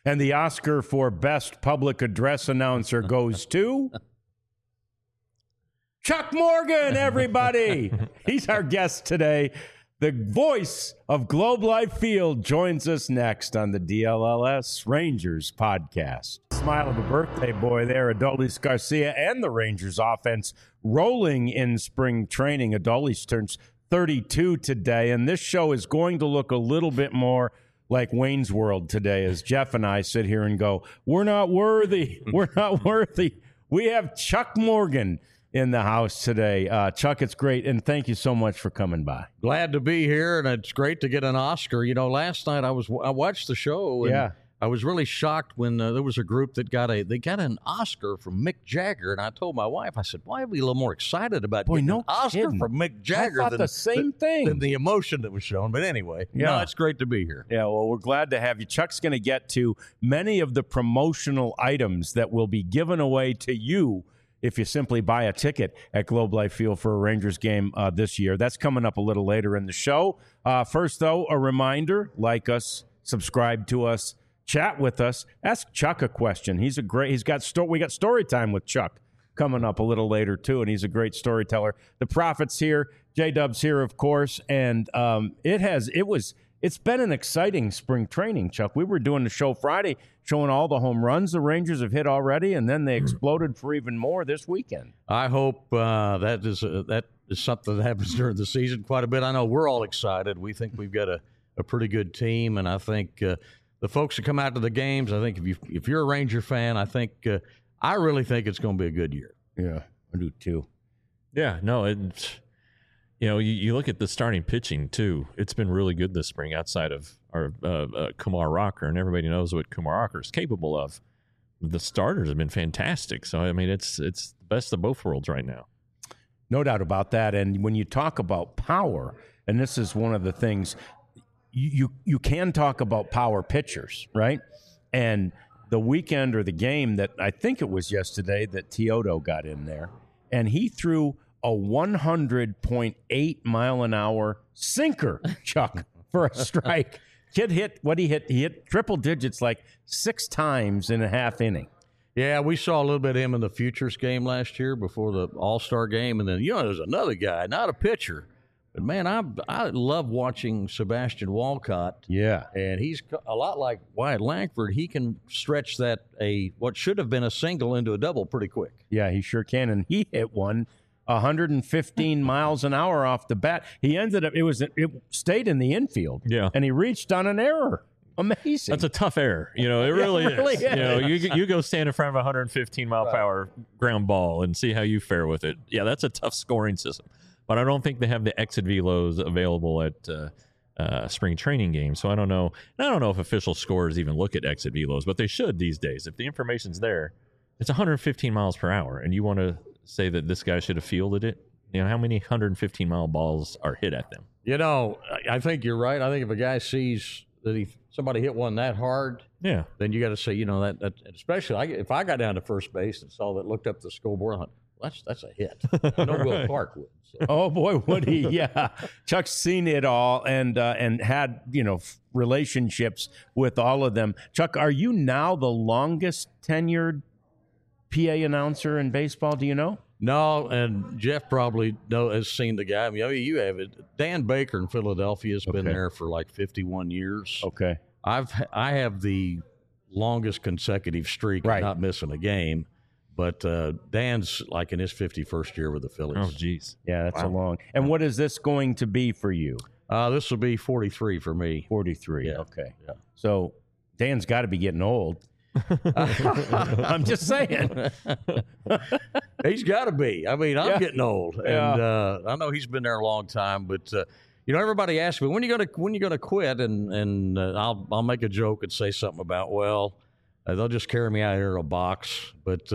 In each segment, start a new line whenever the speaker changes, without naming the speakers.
And the Oscar for Best Public Address Announcer goes to Chuck Morgan, everybody. He's our guest today. The voice of Globe Life Field joins us next on the DLLS Rangers podcast. Smile of a birthday boy there, Adolis Garcia, and the Rangers offense rolling in spring training. Adolis turns 32 today, and this show is going to look a little bit more like Wayne's World today as Jeff and I sit here and go, we're not worthy. We're not worthy. We have Chuck Morgan in the house today. Chuck, it's great, and thank you so much for coming by.
Glad to be here, and it's great to get an Oscar. You know, last night I watched the show, and I was really shocked when there was a group that got an Oscar from Mick Jagger, and I told my wife, I said, why are we a little more excited about getting an Oscar from Mick Jagger
I thought the same thing
than the emotion that was shown? But anyway, no, it's great to be here.
Yeah, well, we're glad to have you. Chuck's going to get to many of the promotional items that will be given away to you if you simply buy a ticket at Globe Life Field for a Rangers game this year. That's coming up a little later in the show. First, though, a reminder, like us, subscribe to us, chat with us, ask Chuck a question. We got story time with Chuck coming up a little later, too, and he's a great storyteller. The Prophet's here, J-Dub's here, of course, and it's been an exciting spring training, Chuck. We were doing the show Friday, showing all the home runs the Rangers have hit already, and then they exploded for even more this weekend.
I hope that is something that happens during the season quite a bit. I know we're all excited. We think we've got a pretty good team, and I think the folks that come out to the games, I think if you're a Ranger fan, I really think it's going to be a good year.
Yeah, I do too.
Yeah, no, it's, you look at the starting pitching too. It's been really good this spring outside of our Kumar Rocker, and everybody knows what Kumar Rocker is capable of. The starters have been fantastic. So, I mean, it's the best of both worlds right now.
No doubt about that. And when you talk about power, and this is one of the things, you can talk about power pitchers, right? And the weekend or the game that I think it was yesterday that Teodo got in there, and he threw a 100.8 mile an hour sinker, Chuck, for a strike. Kid hit what he hit. He hit triple digits like 6 times in a half inning.
Yeah, we saw a little bit of him in the Futures game last year before the All-Star game. And then, there's another guy, not a pitcher. But, man, I love watching Sebastian Walcott.
Yeah.
And he's a lot like Wyatt Langford. He can stretch what should have been a single into a double pretty quick.
Yeah, he sure can. And he hit one 115 miles an hour off the bat. He ended up, it stayed in the infield.
Yeah.
And he reached on an error. Amazing.
That's a tough error. It really is. You go stand in front of a 115 mile per hour ground ball and see how you fare with it. Yeah, that's a tough scoring system. But I don't think they have the exit velos available at spring training games. So I don't know. And I don't know if official scorers even look at exit velos, but they should these days. If the information's there, it's 115 miles per hour, and you want to say that this guy should have fielded it. How many 115 mile balls are hit at them?
I think you're right. I think if a guy sees that somebody hit one that hard, then you got to say, that especially if I got down to first base and looked up the scoreboard, I thought, that's a hit. I know Will Clark would. So.
Oh boy, would he? Yeah, Chuck's seen it all and had relationships with all of them. Chuck, are you now the longest tenured PA announcer in baseball? Do you know?
No, and Jeff probably has seen the guy. I mean, you have it. Dan Baker in Philadelphia has been there for like 51 years.
Okay.
I have the longest consecutive streak of not missing a game. But Dan's like in his 51st year with the Phillies.
Oh, geez.
Yeah, that's a long. And what is this going to be for you?
This will be 43 for me.
43.
Yeah.
Okay.
Yeah.
So Dan's got to be getting old. I'm just saying.
He's got to be. I mean, I'm getting old, and I know he's been there a long time. But everybody asks me when you gonna quit, and I'll make a joke and say something about they'll just carry me out here in a box. But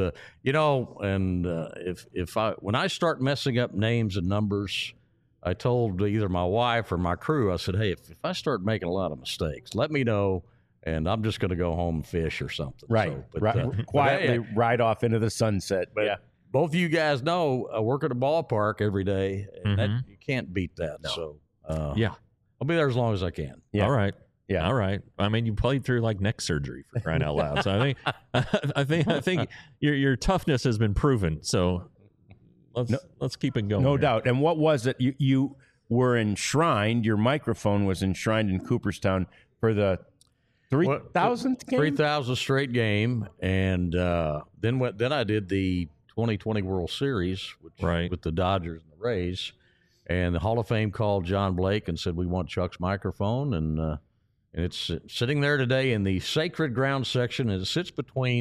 when I start messing up names and numbers, I told either my wife or my crew, I said, hey, if I start making a lot of mistakes, let me know. And I'm just going to go home and fish or something.
Right. So, quietly ride off into the sunset.
But both of you guys know I work at a ballpark every day, and you can't beat that.
No.
So,
I'll
be there as long as I can.
Yeah.
All right.
Yeah.
All right. I mean, you played through like neck surgery for crying out loud. So I think your toughness has been proven. So let's keep it going.
No
here.
doubt. And what was it? You were enshrined. Your microphone was enshrined in Cooperstown for the 3,000th game.
3,000 straight game, and then I did the 2020 World Series, with the Dodgers and the Rays, and the Hall of Fame called John Blake and said, "We want Chuck's microphone," and it's sitting there today in the Sacred Ground section, and it sits between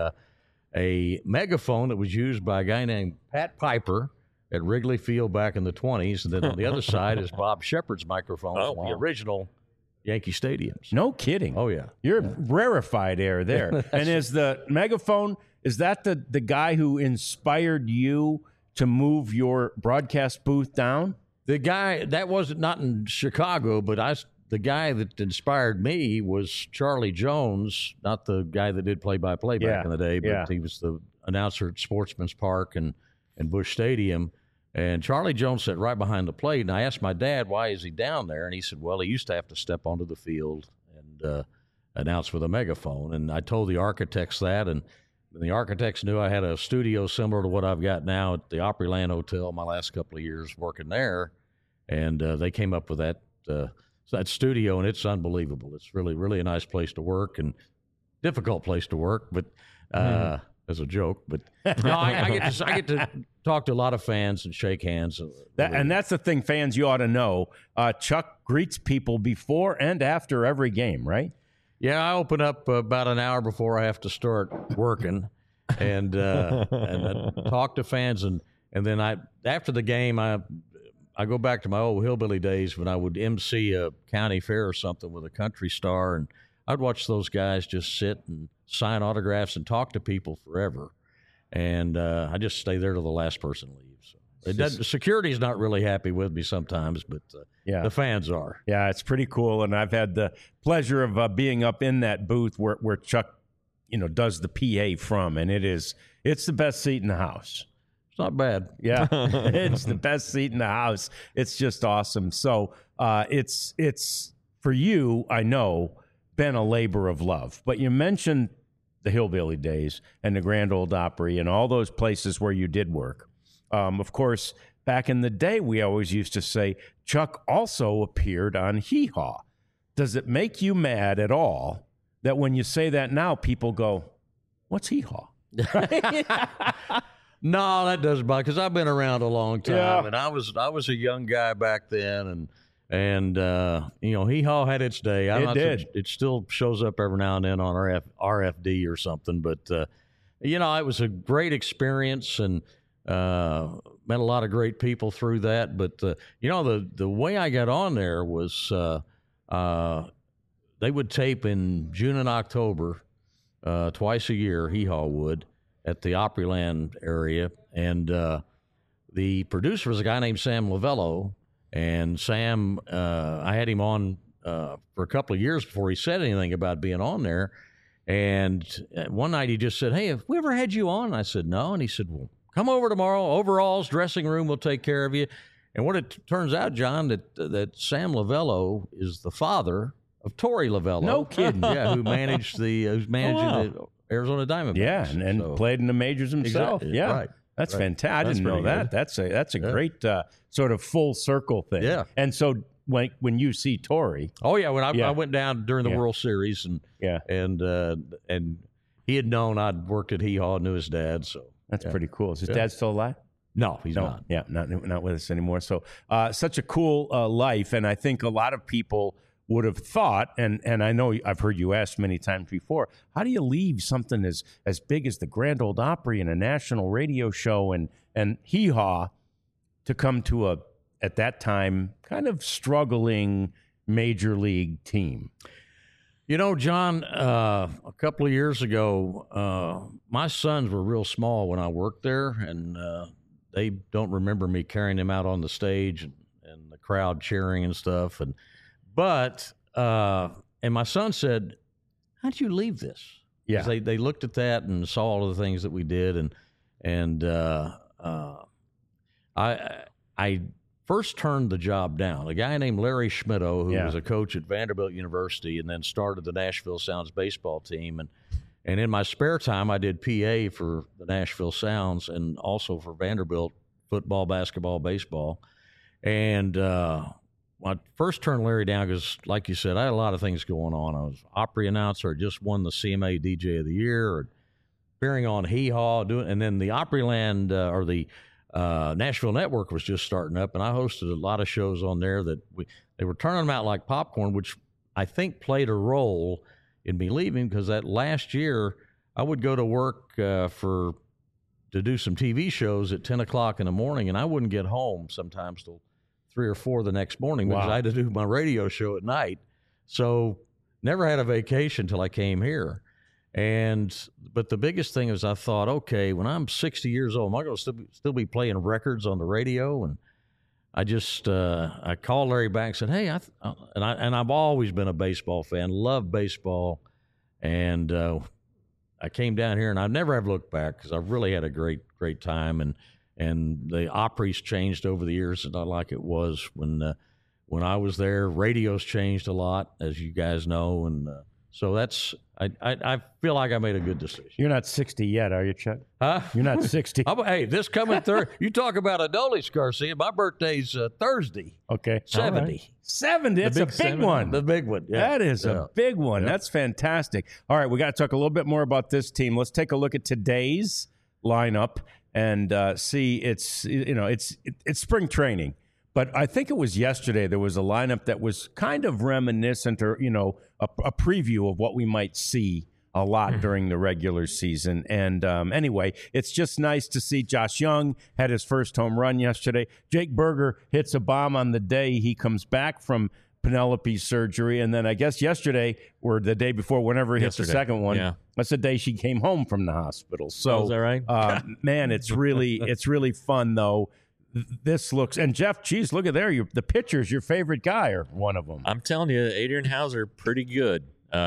a megaphone that was used by a guy named Pat Piper at Wrigley Field back in the 20s, and then on the other side is Bob Shepard's microphone from the original Yankee stadiums.
No kidding.
Oh, yeah.
You're rarefied air there. And is the megaphone, is that the guy who inspired you to move your broadcast booth down?
The guy, that wasn't not in Chicago, but the guy that inspired me was Charlie Jones, not the guy that did play-by-play back in the day, but he was the announcer at Sportsman's Park and Busch Stadium. And Charlie Jones sat right behind the plate, and I asked my dad, why is he down there? And he said, well, he used to have to step onto the field and announce with a megaphone. And I told the architects that, and the architects knew I had a studio similar to what I've got now at the Opryland Hotel my last couple of years working there. And they came up with that studio, and it's unbelievable. It's really, really a nice place to work and difficult place to work, but as a joke. But no, I get to talk to a lot of fans and shake hands.
And that's the thing, fans, you ought to know. Chuck greets people before and after every game, right?
Yeah, I open up about an hour before I have to start working, and I talk to fans, and then after the game I go back to my old hillbilly days when I would MC a county fair or something with a country star, and I'd watch those guys just sit and sign autographs and talk to people forever. And I just stay there till the last person leaves. Security's not really happy with me sometimes, but the fans are.
Yeah, it's pretty cool. And I've had the pleasure of being up in that booth where Chuck, does the PA from, and it's the best seat in the house.
It's not bad.
Yeah, it's the best seat in the house. It's just awesome. So it's for you, I know, been a labor of love. But you mentioned the hillbilly days and the Grand Ole Opry and all those places where you did work. Of course, back in the day, we always used to say Chuck also appeared on Hee Haw. Does it make you mad at all that when you say that now, people go, "What's Hee Haw?"
No, that doesn't bother, because I've been around a long time, and I was a young guy back then, and Hee Haw had its day. It still shows up every now and then on RFD or something, but it was a great experience, and met a lot of great people through that. But the way I got on there was they would tape in June and October twice a year. Hee Haw would, at the Opryland area, and the producer was a guy named Sam Lavello, and Sam, I had him on for a couple of years before he said anything about being on there, and one night he just said, "Hey, have we ever had you on?" I said, "No," and he said, "Well, come over tomorrow, overalls, dressing room, we'll take care of you." And what it turns out, John, that Sam Lavello is the father of Torey Lavello.
No kidding.
Yeah, who's managing the Arizona Diamondbacks.
Yeah, and played in the majors himself.
Exactly.
Yeah,
right.
That's fantastic. I didn't know that.
Good.
That's a great sort of full circle thing.
Yeah.
And so when you see Torey,
I went down during the World Series, and he had known I'd worked at Hee Haw, knew his dad, so
that's pretty cool. Is his dad still alive?
No, he's not.
Yeah, not with us anymore. So such a cool life, and I think a lot of people would have thought, and I know I've heard you asked many times before, how do you leave something as big as the Grand Ole Opry and a national radio show and Hee Haw to come to at that time, kind of struggling major league team?
John, a couple of years ago, my sons were real small when I worked there, and they don't remember me carrying them out on the stage and the crowd cheering and stuff. But my son said, "How'd you leave this?"
Yeah,
they looked at that and saw all of the things that we did, and I first turned the job down. A guy named Larry Schmittou, who was a coach at Vanderbilt University and then started the Nashville Sounds baseball team. And in my spare time, I did PA for the Nashville Sounds and also for Vanderbilt football, basketball, baseball. And I first turned Larry down because, like you said, I had a lot of things going on. I was Opry announcer, just won the CMA DJ of the Year, appearing on Hee Haw, and then the Opryland or the Nashville Network was just starting up, and I hosted a lot of shows on there that they were turning them out like popcorn, which I think played a role in me leaving, because that last year I would go to work to do some TV shows at 10 o'clock in the morning, and I wouldn't get home sometimes till 3 or 4 the next morning because I had to do my radio show at night. So never had a vacation till I came here. But the biggest thing is I thought, okay, when I'm 60 years old, am I going to still be playing records on the radio? And I just I called Larry back and said, hey, I've always been a baseball fan, love baseball, and I came down here, and I never have looked back because I've really had a great time, and the Opry's changed over the years. It's not like it was when I was there. Radio's changed a lot, as you guys know, and so that's I feel like I made a good decision.
You're not 60 yet, are you, Chuck?
Huh?
You're not 60.
Hey, this coming Thursday, you talk about a Dulles, Garcia. My birthday's Thursday.
Okay.
70.
Right. 70. That's a big one.
The big one. Yeah.
That is a big one. That's fantastic. All right, we got to talk a little bit more about this team. Let's take a look at today's lineup and see. It's spring training. But I think it was yesterday there was a lineup that was kind of reminiscent or, a preview of what we might see a lot during the regular season. And anyway, it's just nice to see Josh Young had his first home run yesterday. Jake Burger hits a bomb on the day he comes back from Penelope's surgery. And then I guess yesterday or the day before, whenever he hits the second one, that's the day she came home from the hospital. So,
is that right?
Man, it's really fun, though. This looks, and Jeff, geez, look at there. The pitcher's your favorite guy, or one of them.
I'm telling you, Adrian Hauser, pretty good.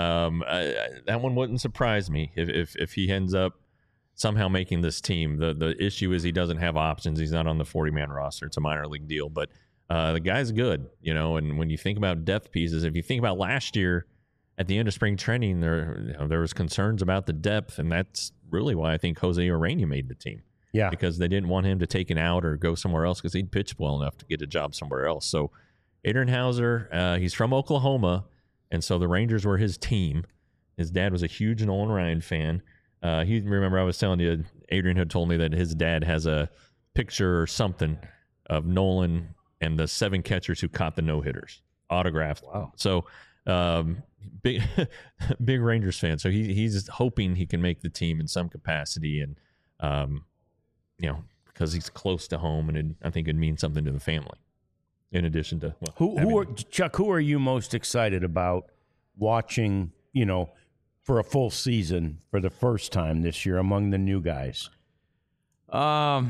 That one wouldn't surprise me if he ends up somehow making this team. The issue is he doesn't have options. He's not on the 40-man roster. It's a minor league deal, but the guy's good, and when you think about depth pieces, if you think about last year at the end of spring training, there was concerns about the depth, and that's really why I think Jose Urena made the team.
Yeah,
because they didn't want him to take an out or go somewhere else because he'd pitched well enough to get a job somewhere else. So Adrian Hauser, he's from Oklahoma, and so the Rangers were his team. His dad was a huge Nolan Ryan fan. Remember I was telling you, Adrian had told me that his dad has a picture or something of Nolan and the 7 catchers who caught the no-hitters, autographed.
Wow.
So big Rangers fan. So he's hoping he can make the team in some capacity, and because he's close to home, and I think it'd mean something to the family. In addition to
Chuck, who are you most excited about watching? For a full season for the first time this year among the new guys.
I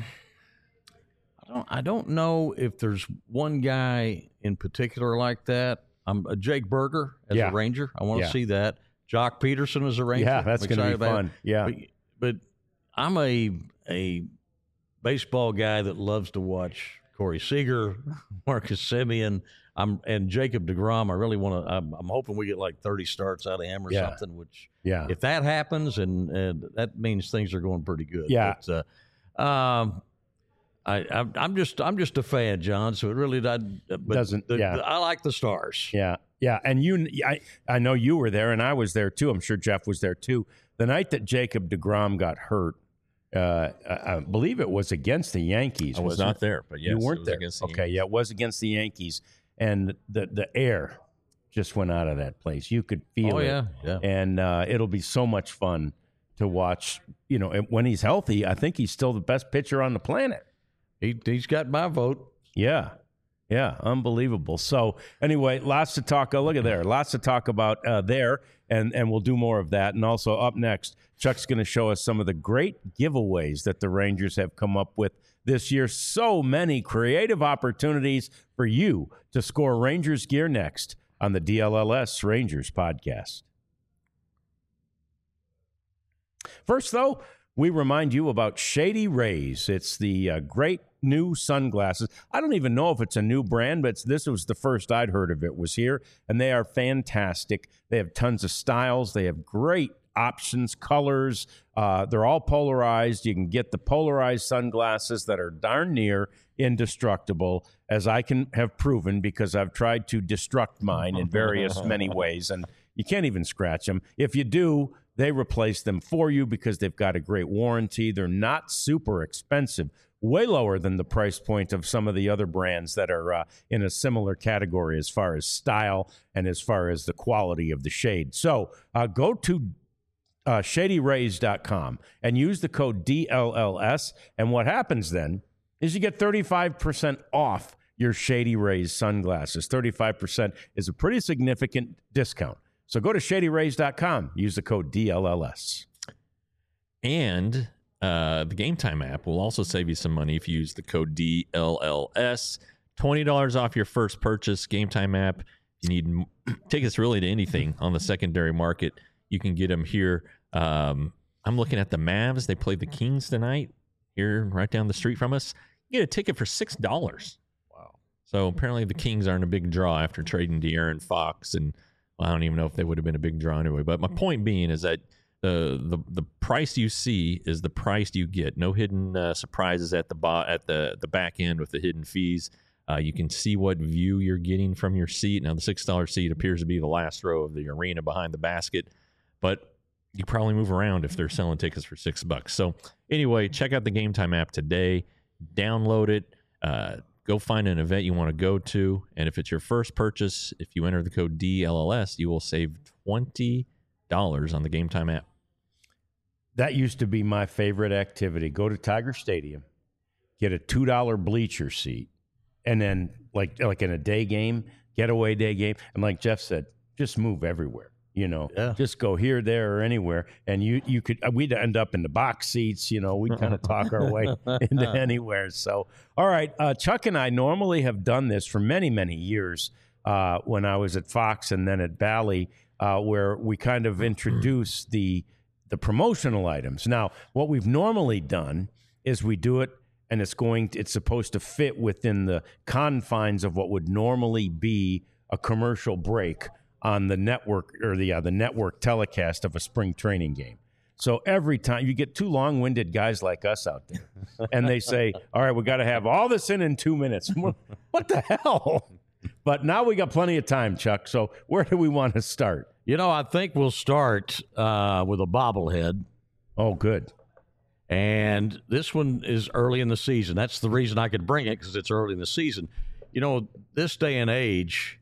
don't know if there's one guy in particular like that. I'm a Jake Burger as a Ranger. I want to see that. Jock Peterson as a Ranger.
Yeah, that's going to be fun. Yeah,
but I'm a baseball guy that loves to watch Corey Seager, Marcus Semien, and Jacob deGrom. I really want to. I'm hoping we get like 30 starts out of him or something. Which, if that happens, and that means things are going pretty good.
Yeah.
But, I'm just a fan, John. So it really doesn't. I like the Stars.
Yeah, yeah. And I know you were there, and I was there too. I'm sure Jeff was there too. The night that Jacob deGrom got hurt, I believe it was against the Yankees.
I was not there, but yes,
you weren't
it was
there.
Against the
okay,
Yankees.
Yeah, it was against the Yankees, and the air just went out of that place. You could feel it.
Yeah.
And it'll be so much fun to watch. When he's healthy, I think he's still the best pitcher on the planet.
He's got my vote.
Yeah, unbelievable. So anyway, lots to talk. Look at there, lots to talk about there, and we'll do more of that. And also up next, Chuck's going to show us some of the great giveaways that the Rangers have come up with this year. So many creative opportunities for you to score Rangers gear next on the DLLS Rangers podcast. First, though, we remind you about Shady Rays. It's the great new sunglasses. I don't even know if it's a new brand, but this was the first I'd heard of it was here, and they are fantastic. They have tons of styles. They have great options, colors. They're all polarized. You can get the polarized sunglasses that are darn near indestructible, as I can have proven because I've tried to destruct mine in various many ways, and you can't even scratch them. If you do, they replace them for you because they've got a great warranty. They're not super expensive, way lower than the price point of some of the other brands that are in a similar category as far as style and as far as the quality of the shade. So go to ShadyRays.com and use the code DLLS, and what happens then is you get 35% off your Shady Rays sunglasses. 35% is a pretty significant discount. So go to ShadyRays.com, use the code DLLS.
And the Game Time app will also save you some money if you use the code DLLS. $20 off your first purchase. Game Time app. You need tickets really to anything on the secondary market. You can get them here. I'm looking at the Mavs. They played the Kings tonight here right down the street from us. You get a ticket for $6.
Wow.
So apparently the Kings aren't a big draw after trading De'Aaron Fox, and I don't even know if they would have been a big draw anyway. But my point being is that the price you see is the price you get. No hidden surprises at the back end with the hidden fees. You can see what view you're getting from your seat. Now, the $6 seat appears to be the last row of the arena behind the basket, but you probably move around if they're selling tickets for $6. So anyway, check out the Game Time app today. Download it. Go find an event you want to go to. And if it's your first purchase, if you enter the code DLLS, you will save $20 on the Game Time app.
That used to be my favorite activity. Go to Tiger Stadium, get a $2 bleacher seat, and then like in a day game, getaway day game, and like Jeff said, just move everywhere. Just go here, there, or anywhere, and you could. We'd end up in the box seats. We'd kind of talk our way into anywhere. So, all right, Chuck and I normally have done this for many, many years when I was at Fox and then at Bally, where we kind of introduce the promotional items. Now, what we've normally done is we do it, and it's supposed to fit within the confines of what would normally be a commercial break on the network or the network telecast of a spring training game. So every time you get two long-winded guys like us out there, and they say, all right, we got to have all this in 2 minutes. What the hell? But now we got plenty of time, Chuck. So where do we want to start?
I think we'll start with a bobblehead.
Oh, good.
And this one is early in the season. That's the reason I could bring it, because it's early in the season. This day and age,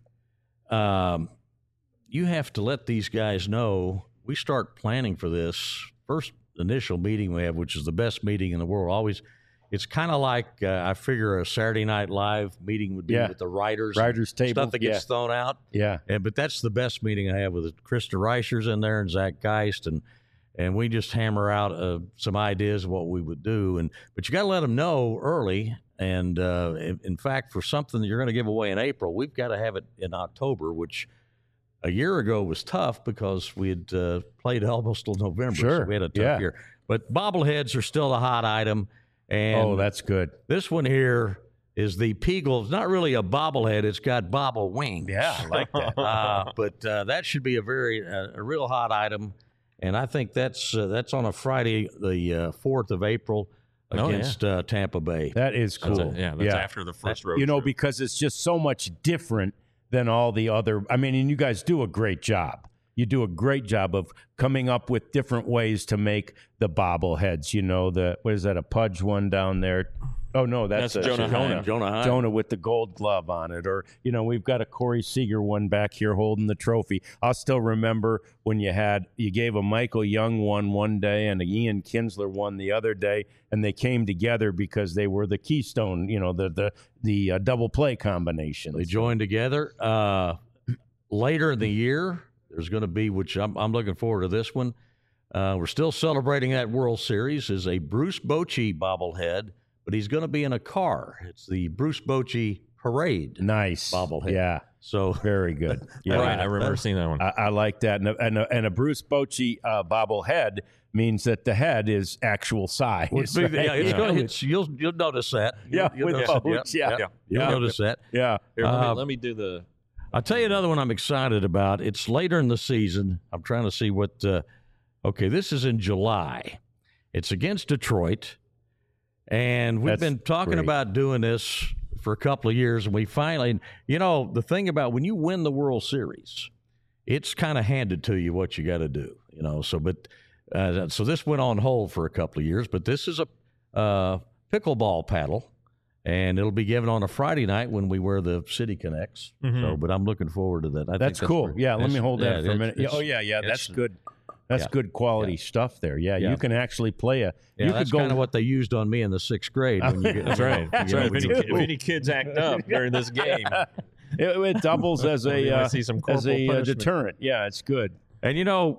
you have to let these guys know we start planning for this first initial meeting we have, which is the best meeting in the world. Always, it's kind of like I figure a Saturday Night Live meeting would be with the writers
table,
stuff that gets thrown out.
Yeah,
but that's the best meeting I have with Krista Reicher's in there and Zach Geist, and we just hammer out some ideas of what we would do. But you got to let them know early. And in fact, for something that you're going to give away in April, we've got to have it in October, which a year ago was tough because we had played almost till November.
Sure.
So we had a tough year. But bobbleheads are still a hot item. And
that's good.
This one here is the Peagle. It's not really a bobblehead. It's got bobble wings.
Yeah, I like that.
But that should be a real hot item. And I think that's on a Friday, the 4th of April against Tampa Bay.
That is cool.
That's after the first road trip.
Because it's just so much different than all the other. I mean, and you guys do a great job. You do a great job of coming up with different ways to make the bobbleheads. What is that, a Pudge one down there? Oh, no, that's
Jonah Heim.
Jonah with the gold glove on it. Or, we've got a Corey Seager one back here holding the trophy. I'll still remember when you gave a Michael Young one day and a Ian Kinsler one the other day, and they came together because they were the keystone, the double play combination.
They joined together. Later in the year, there's going to be, which I'm looking forward to this one. We're still celebrating that World Series, is a Bruce Bochy bobblehead, but he's going to be in a car. It's the Bruce Bochy Parade.
Nice
bobblehead.
Yeah.
So
Very good. Yeah,
Right, I remember seeing that one.
I like that. And a Bruce Bochy bobblehead means that the head is actual size. Right?
yeah, you'll notice that. You'll
with
notice it.
Boch,
You'll notice that.
Yeah.
Here, let me do the.
I'll tell you another one I'm excited about. It's later in the season. I'm trying to see what. Okay, this is in July. It's against Detroit, and we've been talking about doing this for a couple of years, and we finally, the thing about when you win the World Series, it's kind of handed to you what you got to do, So this went on hold for a couple of years, but this is a pickleball paddle. And it'll be given on a Friday night when we wear the City Connects. So, but I'm looking forward to that. I think
That's cool. Yeah, let me hold that for a minute.
it's-
Oh, yeah. That's good. That's good quality stuff there. Yeah,
Yeah.
you can actually play
Yeah, that's kind of what they used on me in the 6th grade. When you get,
That's right. That's right.
Me
If
too.
any kids act up during this game,
it doubles as
We might
a
see some
as
corporal
a
punishment.
deterrent. Yeah, it's good.
And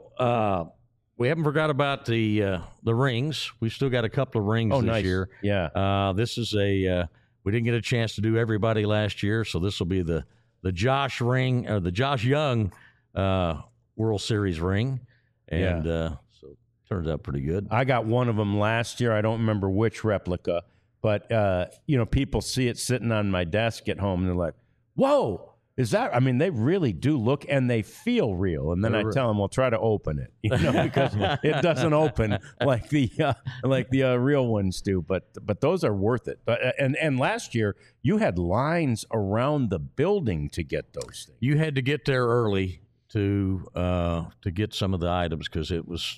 we haven't forgot about the rings. We've still got a couple of rings this
nice.
year.
Yeah.
This is we didn't get a chance to do everybody last year, so this will be the Josh ring or the Josh Young World Series ring, and so turns out pretty good.
I got one of them last year. I don't remember which replica, but people see it sitting on my desk at home, and they're like, "Whoa, is that?" I mean, they really do look, and they feel real. And then I tell them, "Well, try to open it," because it doesn't open like the real ones do. But those are worth it. And last year you had lines around the building to get those things.
You had to get there early to get some of the items because it was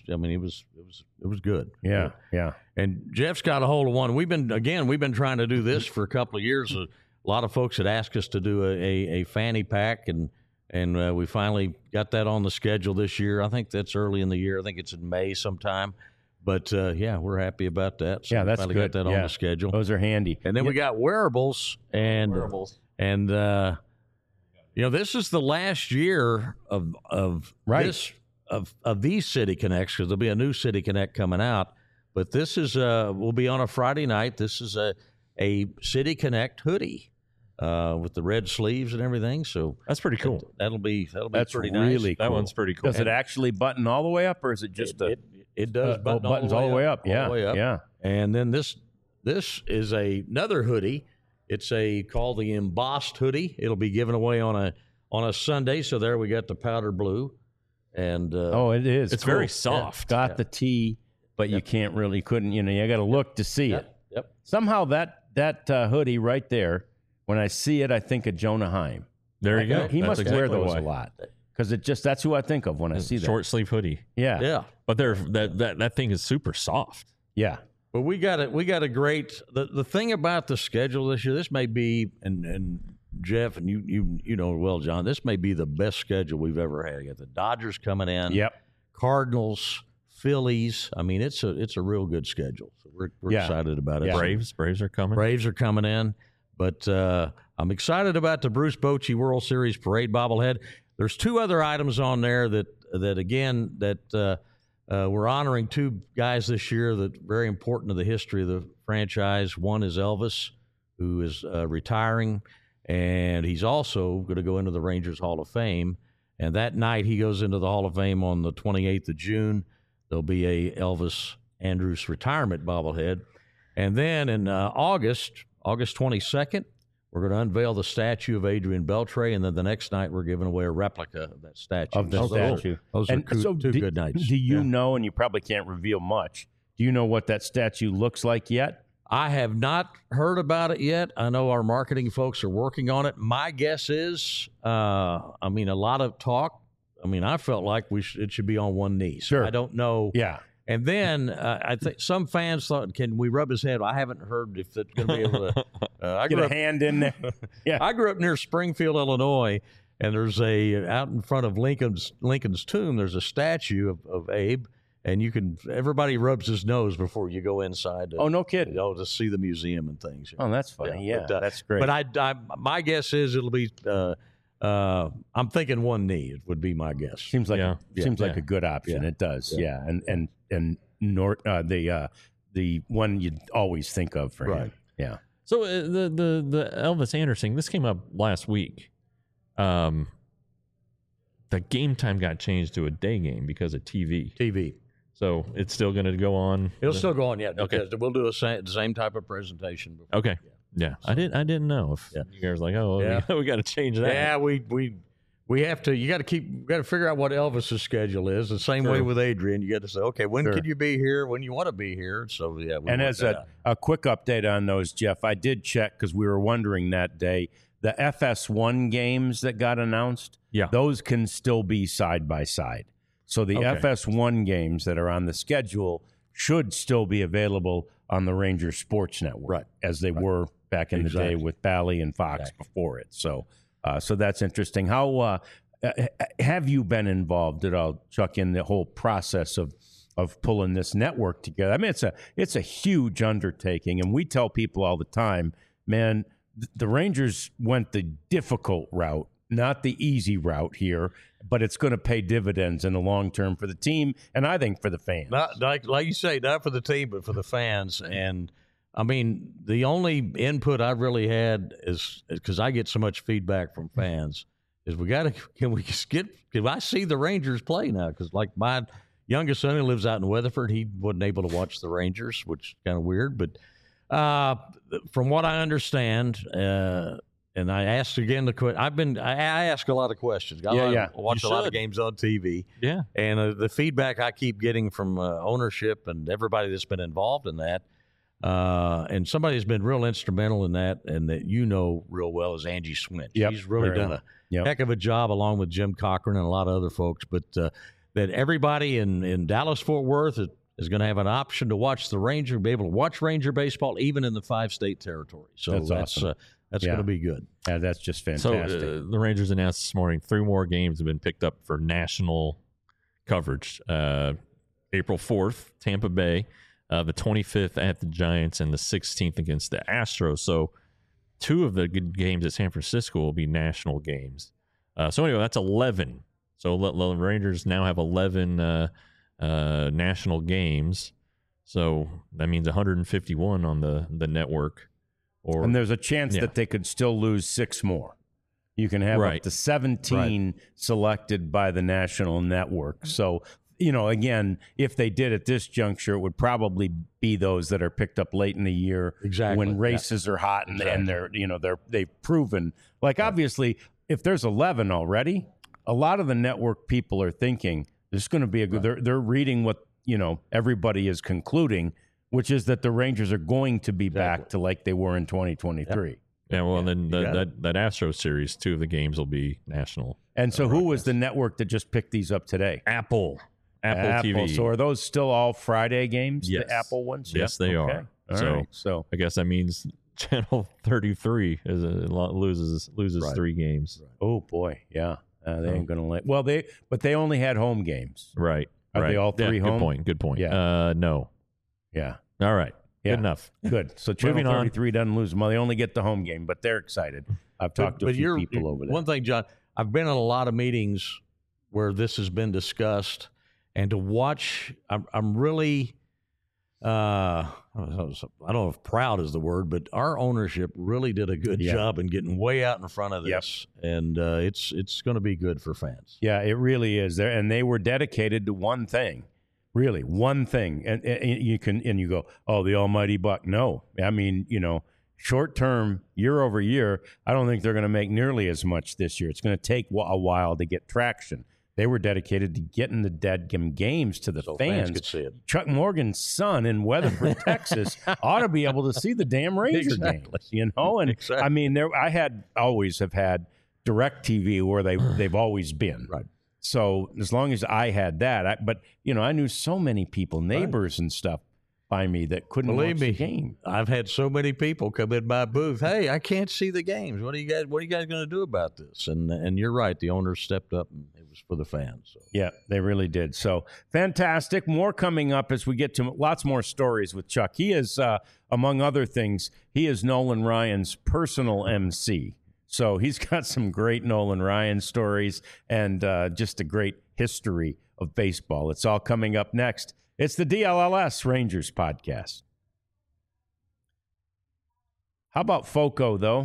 good.
Yeah.
And Jeff's got a hold of one. We've been trying to do this for a couple of years. A lot of folks had asked us to do a fanny pack, and we finally got that on the schedule this year. I think that's early in the year. I think it's in May sometime. But we're happy about that. So
Yeah,
we
that's
finally
good.
got that on the schedule.
Those are handy.
And then we got wearables and this is the last year of
Right.
this of these City Connects because there'll be a new City Connect coming out. But this is will be on a Friday night. This is a City Connect hoodie with the red sleeves and everything. So
that's pretty cool.
That'll be
That's
pretty
really
nice.
That
cool.
one's pretty cool.
Does it actually button all the way up, or is it just
It does
buttons all the way up?
all
Yeah,
the way up.
yeah.
And then this is another hoodie. It's called the embossed hoodie. It'll be given away on a Sunday. So there we got the powder blue, and
it is.
It's
cool.
very soft.
Got the T, but you couldn't. You got to look to see it.
Yep.
Somehow that hoodie right there, when I see it, I think of Jonah Heim.
There you go.
He
That's
must
exactly
wear those
why.
a lot because that's who I think of when I see that.
Short sleeve hoodie.
Yeah,
Yeah.
But that thing is super soft.
yeah.
But we got a great the thing about the schedule this year. This may be and Jeff and you know well, John. This may be the best schedule we've ever had. You got the Dodgers coming in.
Yep.
Cardinals, Phillies. I mean, it's a real good schedule. So we're excited about it.
Yeah.
Braves are coming.
Braves are coming in, but I'm excited about the Bruce Bochy World Series Parade bobblehead. There's two other items on there that we're honoring two guys this year that are very important to the history of the franchise. One is Elvis, who is retiring, and he's also going to go into the Rangers Hall of Fame. And that night he goes into the Hall of Fame on the 28th of June. There'll be a Elvis Andrus retirement bobblehead. And then in August 22nd, we're going to unveil the statue of Adrian Beltre, and then the next night we're giving away a replica of that statue.
Of the statue.
Those are two good nights.
Do you know, and you probably can't reveal much, do you know what that statue looks like yet?
I have not heard about it yet. I know our marketing folks are working on it. My guess is, a lot of talk. I mean, I felt like it should be on one knee. So
Sure.
I don't know.
Yeah.
And then I think some fans thought, can we rub his head? I haven't heard if it's going to be able to. I
Get
grew
a
up,
hand in there. Yeah.
I grew up near Springfield, Illinois, and there's out in front of Lincoln's tomb, there's a statue of Abe, and everybody rubs his nose before you go inside.
Oh, no kidding.
To see the museum and things.
Oh, that's funny. Yeah,
but,
that's great.
But my guess is it'll be. I'm thinking one knee. It would be my guess.
Seems like
Yeah.
a good option.
Yeah.
It does.
Yeah.
Yeah. And the one you'd always think of for him.
Right.
Yeah.
So the Elvis Anderson, this came up last week. the game time got changed to a day game because of TV. So it's still going to go on.
It'll still go on, yeah.
Okay.
We'll do the same type of presentation. Before.
Okay. Yeah. So, I didn't know if you guys were like, oh, we got to change that.
Yeah, we have to. You got to figure out what Elvis's schedule is. The same way with Adrian, you got to say, okay, when can you be here? When you want to be here? So yeah.
And as a quick update on those, Jeff, I did check because we were wondering that day. The FS1 games that got announced, those can still be side by side. So the FS1 games that are on the schedule should still be available on the Rangers Sports Network, as they were back in the day with Bally and Fox before it. So that's interesting. How have you been involved at all, Chuck, in the whole process of pulling this network together? I mean, it's a huge undertaking, and we tell people all the time, man, the Rangers went the difficult route, not the easy route here, but it's going to pay dividends in the long term for the team, and I think for the fans.
Not like you say, not for the team, but for the fans. And I mean, the only input I really had is because I get so much feedback from fans is can I see the Rangers play now? Because like my youngest son who lives out in Weatherford, he wasn't able to watch the Rangers, which is kind of weird. But from what I understand, and I asked again the question. I ask a lot of questions. I watch a lot of games on TV.
Yeah,
and the feedback I keep getting from ownership and everybody that's been involved in that. And somebody has been real instrumental in that, and that real well is Angie Swint. She's really done a heck of a job along with Jim Cochran and a lot of other folks. But that everybody in Dallas-Fort Worth is going to have an option to watch the Ranger, be able to watch Ranger baseball even in the 5-state territory. So that's awesome. That's going to be good.
Yeah, that's just fantastic.
So the Rangers announced this morning 3 more games have been picked up for national coverage. April 4th, Tampa Bay. The 25th at the Giants, and the 16th against the Astros. So 2 of the good games at San Francisco will be national games. So anyway, that's 11. So the Rangers now have 11 national games. So that means 151 on the network.
And there's a chance that they could still lose 6 more. You can have up to 17 selected by the national network. So again, if they did at this juncture, it would probably be those that are picked up late in the year when races are hot and they've proven. Like, obviously, if there's 11 already, a lot of the network people are thinking this is going to be a good. They're reading what everybody is concluding, which is that the Rangers are going to be back to like they were in 2023. Yep.
Yeah, well, and then that Astros series, 2 of the games will be national.
And so, who was the network that just picked these up today?
Apple TV.
So are those still all Friday games?
Yes.
The Apple ones?
Yes, they are. So I guess that means Channel 33 loses 3 games.
Right. Oh boy, yeah. They ain't gonna let. Well, they only had home games.
Right.
Are they all 3 home?
Good point.
Yeah.
No.
Yeah.
All right. Yeah. Good enough.
Good. So Channel 33 doesn't lose them. Well, they only get the home game, but they're excited. I've talked to a few people over there.
One thing, John, I've been in a lot of meetings where this has been discussed. And to watch, I'm really, I don't know if proud is the word, but our ownership really did a good job in getting way out in front of this. Yep. And it's going to be good for fans.
Yeah, it really is. And they were dedicated to one thing, really, one thing. And you go, oh, the almighty buck. No, I mean, short term, year over year, I don't think they're going to make nearly as much this year. It's going to take a while to get traction. They were dedicated to getting the deadgum games to the fans.
Could see it.
Chuck Morgan's son in Weatherford, Texas, ought to be able to see the damn Ranger games. And I mean, I always have had DirecTV where they've always been.
Right.
So as long as I had that, but I knew so many people, neighbors and stuff, by me that couldn't watch the game.
I've had so many people come in my booth. Hey, I can't see the games. What are you guys going to do about this? And you're right. The owners stepped up, and it was for the fans. So.
Yeah, they really did. So fantastic. More coming up as we get to lots more stories with Chuck. He is, among other things, he is Nolan Ryan's personal MC. So he's got some great Nolan Ryan stories and just a great history of baseball. It's all coming up next. It's the DLLS Rangers podcast. How about FOCO, though?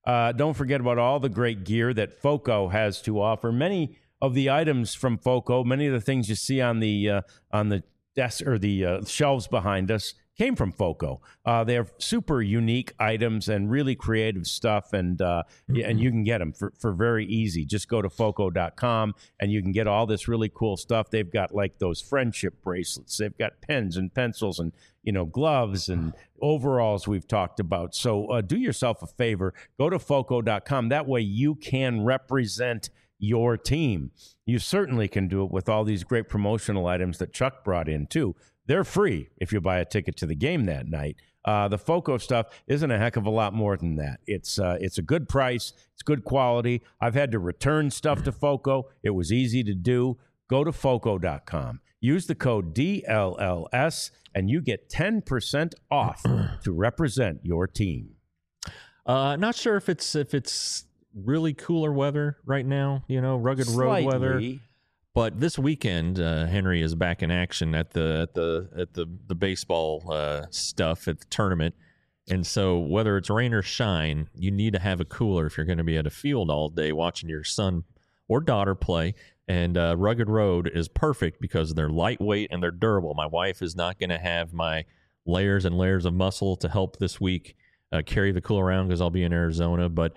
Don't forget about all the great gear that FOCO has to offer. Many of the items from FOCO, many of the things you see on the desk or the shelves behind us came from FOCO. They have super unique items and really creative stuff, and you can get them for very easy. Just go to FOCO.com, and you can get all this really cool stuff. They've got like those friendship bracelets. They've got pens and pencils and gloves and overalls we've talked about. So do yourself a favor. Go to FOCO.com. That way you can represent your team. You certainly can do it with all these great promotional items that Chuck brought in, too. They're free if you buy a ticket to the game that night. The FOCO stuff isn't a heck of a lot more than that. It's a good price. It's good quality. I've had to return stuff to FOCO. It was easy to do. Go to FOCO.com. Use the code DLLS, and you get 10% off to represent your team.
Not sure if it's really cooler weather right now, rugged road weather. But this weekend, Henry is back in action at the baseball stuff at the tournament, and so whether it's rain or shine, you need to have a cooler if you're going to be at a field all day watching your son or daughter play. And Rugged Road is perfect because they're lightweight and they're durable. My wife is not going to have my layers and layers of muscle to help this week carry the cooler around because I'll be in Arizona. But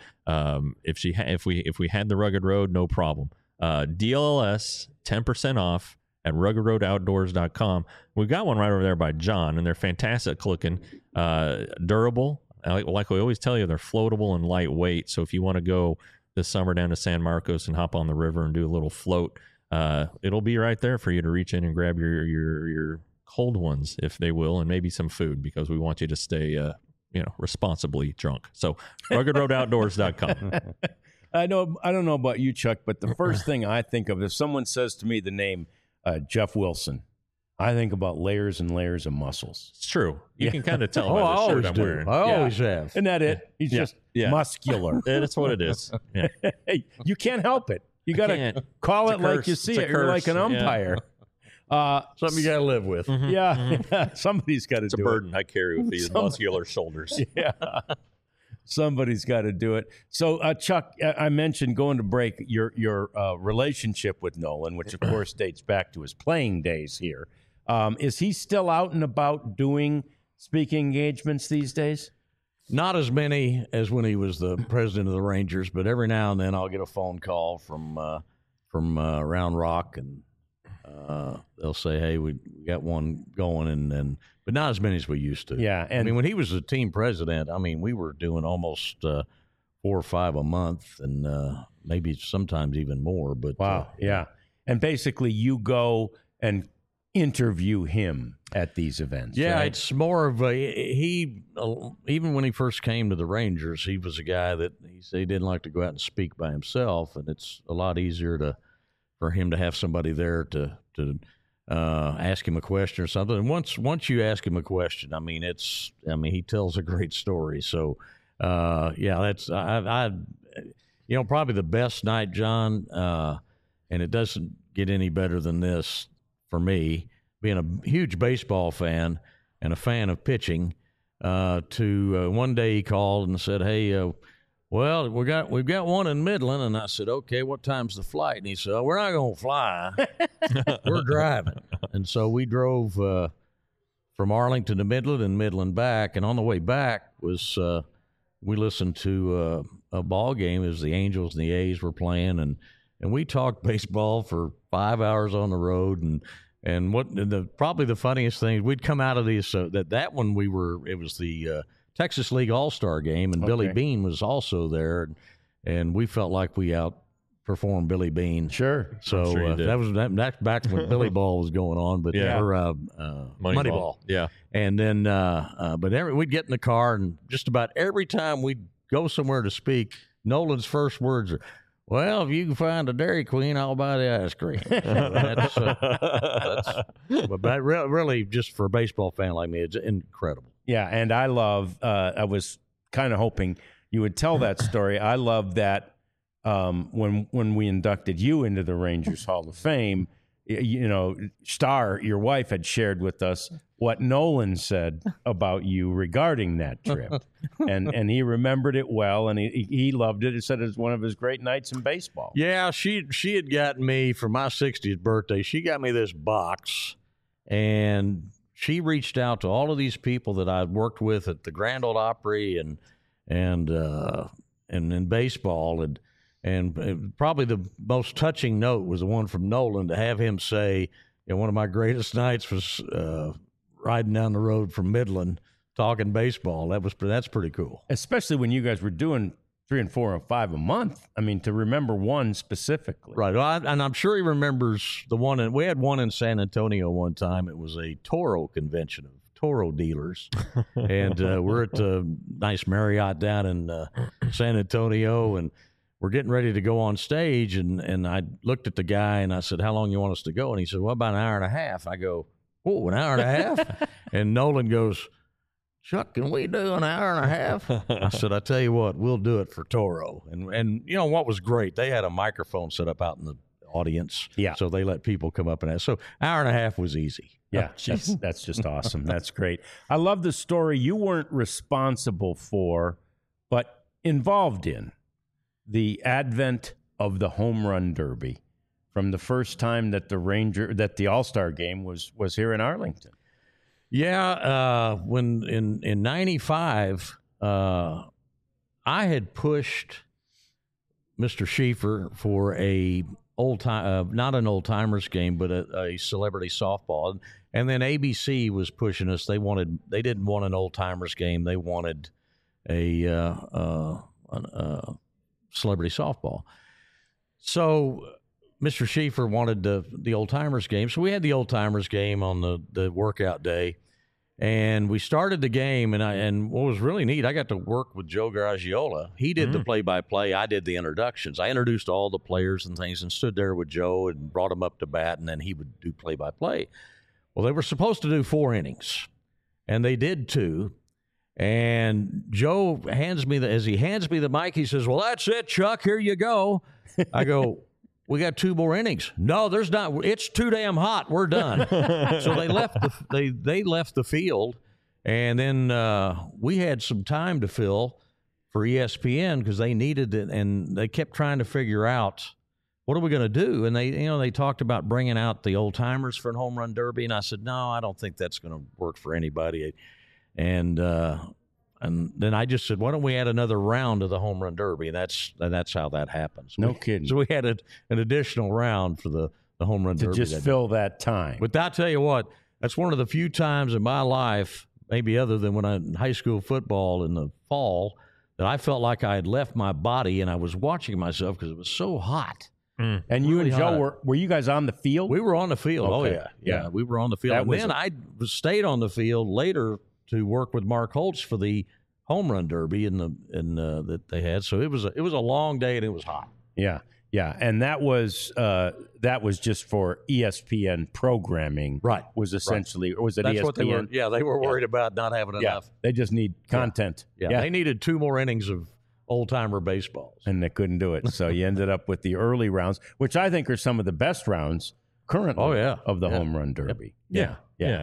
if we had the Rugged Road, no problem. DLLS 10% off at ruggedroadoutdoors.com. We've got one right over there by John, and they're fantastic looking, durable. Like we always tell you, they're floatable and lightweight. So if you want to go this summer down to San Marcos and hop on the river and do a little float, it'll be right there for you to reach in and grab your cold ones, if they will, and maybe some food, because we want you to stay responsibly drunk. So ruggedroadoutdoors.com.
I don't know about you, Chuck, but the first thing I think of, if someone says to me the name Jeff Wilson, I think about layers and layers of muscles.
It's true. You can kind of tell by the shirt I'm wearing.
I always have.
Isn't that it? He's just muscular.
That's what it is. Yeah.
Hey, you can't help it. You got to call it like you see it. You're like an umpire.
Something you got to live with.
Mm-hmm. Yeah. Somebody's got to do it.
It's a burden I carry with these muscular shoulders.
Yeah. Somebody's got to do it. So, Chuck, I mentioned going to break your relationship with Nolan, which, of course, dates back to his playing days here. Is he still out and about doing speaking engagements these days?
Not as many as when he was the president of the Rangers, but every now and then I'll get a phone call from Round Rock, and they'll say, "Hey, we got one going," but not as many as we used to.
Yeah, and
I mean, when he was the team president, we were doing almost 4 or 5 a month, and maybe sometimes even more. But
wow, yeah. And basically, you go and interview him at these events.
Yeah,
right?
It's more of he even when he first came to the Rangers, he was a guy that he said he didn't like to go out and speak by himself, and it's a lot easier for him to have somebody there to ask him a question or something. And once you ask him a question, he tells a great story. So that's probably the best night, John. And it doesn't get any better than this for me, being a huge baseball fan and a fan of pitching. One day he called and said, "Hey, well, we've got one in Midland," and I said, "Okay, what time's the flight?" And he said, "Oh, we're not going to fly, we're driving." And so we drove from Arlington to Midland and Midland back, and on the way back was we listened to a ball game as the Angels and the A's were playing, and we talked baseball for 5 hours on the road, and probably the funniest thing, we'd come out of these that one it was the Texas League All-Star game, and Billy Beane was also there, and we felt like we outperformed Billy Beane.
Sure.
So that's back when Billy Ball was going on, but Moneyball.
Yeah.
And then, we'd get in the car, and just about every time we'd go somewhere to speak, Nolan's first words are, "Well, if you can find a Dairy Queen, I'll buy the ice cream." But really, just for a baseball fan like me, it's incredible.
Yeah, and I was kind of hoping you would tell that story. I love that when we inducted you into the Rangers Hall of Fame, Star, your wife, had shared with us what Nolan said about you regarding that trip. and he remembered it well, and he loved it. He said it was one of his great nights in baseball.
Yeah, she had gotten me for my 60th birthday. She got me this box, and she reached out to all of these people that I'd worked with at the Grand Ole Opry and in baseball, and probably the most touching note was the one from Nolan, to have him say, one of my greatest nights was riding down the road from Midland talking baseball. That's pretty cool.
Especially when you guys were doing 3 and 4 and 5 a month. I mean, to remember one specifically.
Right. Well, and I'm sure he remembers the one. And we had one in San Antonio one time. It was a Toro convention of Toro dealers. And we're at the nice Marriott down in San Antonio, and we're getting ready to go on stage. And I looked at the guy and I said, "How long you want us to go?" And he said, "Well, about an hour and a half." I go, "Oh, an hour and a half?" And Nolan goes, "Chuck, can we do an hour and a half?" I said, "I tell you what, we'll do it for Toro." And what was great? They had a microphone set up out in the audience.
Yeah.
So they let people come up and ask. So hour and a half was easy.
Yeah, that's just awesome. That's great. I love the story you weren't responsible for, but involved in the advent of the home run derby from the first time that the All-Star game was here in Arlington.
Yeah, when in 95, I had pushed Mr. Schieffer for a not an old timers game, but a celebrity softball, and then ABC was pushing us. They didn't want an old timers game. They wanted a celebrity softball. So Mr. Schieffer wanted the old timers game, so we had the old timers game on the workout day. And we started the game, and what was really neat, I got to work with Joe Garagiola. He did the play-by-play. I did the introductions. I introduced all the players and things and stood there with Joe and brought him up to bat, and then he would do play-by-play. Well, they were supposed to do 4 innings, and they did 2. And Joe as he hands me the mic, he says, "Well, that's it, Chuck. Here you go." I go, "We got 2 more innings." "No, there's not. It's too damn hot. We're done." So they left they left the field, and then we had some time to fill for ESPN because they needed it, and they kept trying to figure out what are we going to do. And they talked about bringing out the old timers for a home run derby, and I said, "No, I don't think that's going to work for anybody." And then I just said, "Why don't we add another round of the home run derby?" And that's how that happens.
No kidding.
So we had an additional round for the home run derby.
To just fill that time.
But I'll tell you what, that's one of the few times in my life, maybe other than when I in high school football in the fall, that I felt like I had left my body and I was watching myself because it was so hot.
And you and Joe, were you guys on the field?
We were on the field.
Okay.
Oh, yeah. We were on the field. And then I stayed on the field later to work with Mark Holtz for the home run derby that they had. So it was a long day and it was hot.
Yeah, and that was just for ESPN programming.
Right.
Was essentially, or was it
That's
ESPN?
What they were. Yeah, they were worried about not having enough.
They just need content.
Yeah. They needed 2 more innings of old timer baseballs,
and they couldn't do it. So you ended up with the early rounds, which I think are some of the best rounds currently. Of the home run derby.
Yeah.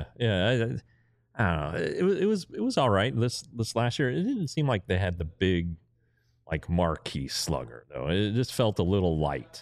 I don't know. It was all right. This last year, it didn't seem like they had the big, like, marquee slugger though. It just felt a little light.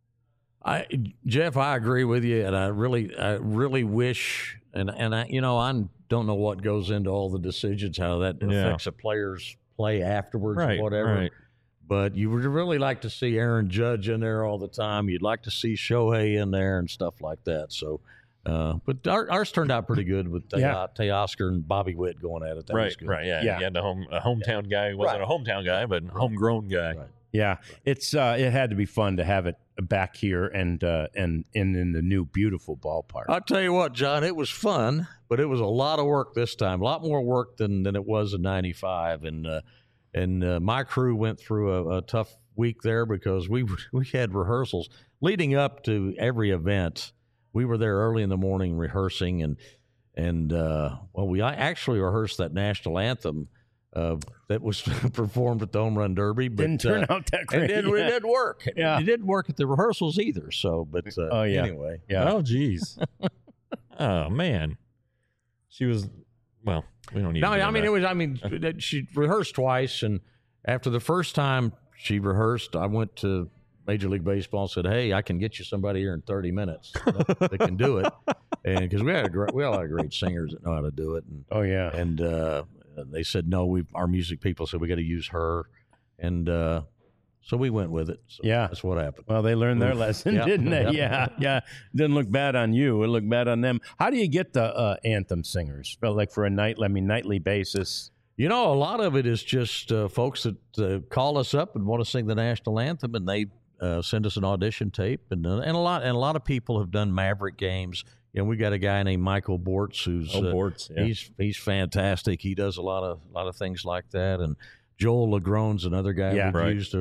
Jeff, I agree with you, and I really wish, and I don't know what goes into all the decisions, how that affects a player's play afterwards, or whatever. Right. But you would really like to see Aaron Judge in there all the time. You'd like to see Shohei in there and stuff like that. So. But ours turned out pretty good with Teoscar and Bobby Witt going at it. That was good.
Right. You had a hometown guy who wasn't a hometown guy, but a homegrown guy.
Right.
Yeah, it had to be fun to have it back here and in the new beautiful ballpark.
I'll tell you what, John, it was fun, but it was a lot of work this time. A lot more work than it was in '95, and my crew went through a tough week there because we had rehearsals leading up to every event. We were there early in the morning rehearsing, and we actually rehearsed that national anthem that was performed at the Home Run Derby. But,
Didn't turn out that great.
It didn't work.
Yeah.
It didn't work at the rehearsals either. So, but anyway.
Yeah.
Oh, geez. Oh, man. She was, well, we don't need to.
No, she rehearsed twice. And after the first time she rehearsed, I went to Major League Baseball and said, "Hey, I can get you somebody here in 30 minutes that can do it." And because we had a lot of great singers that know how to do it. And, and they said, "No, our music people said we got to use her." And so we went with it. So that's what happened.
Well, they learned their lesson, didn't they? Yeah. Didn't look bad on you. It looked bad on them. How do you get the anthem singers? Well, like for a nightly basis.
You know, a lot of it is just folks that call us up and want to sing the national anthem, and they send us an audition tape. And a lot of people have done Maverick games. You know, we got a guy named Michael Bortz who's he's fantastic. He does a lot of things like that. And Joel Legron's another guy we've used.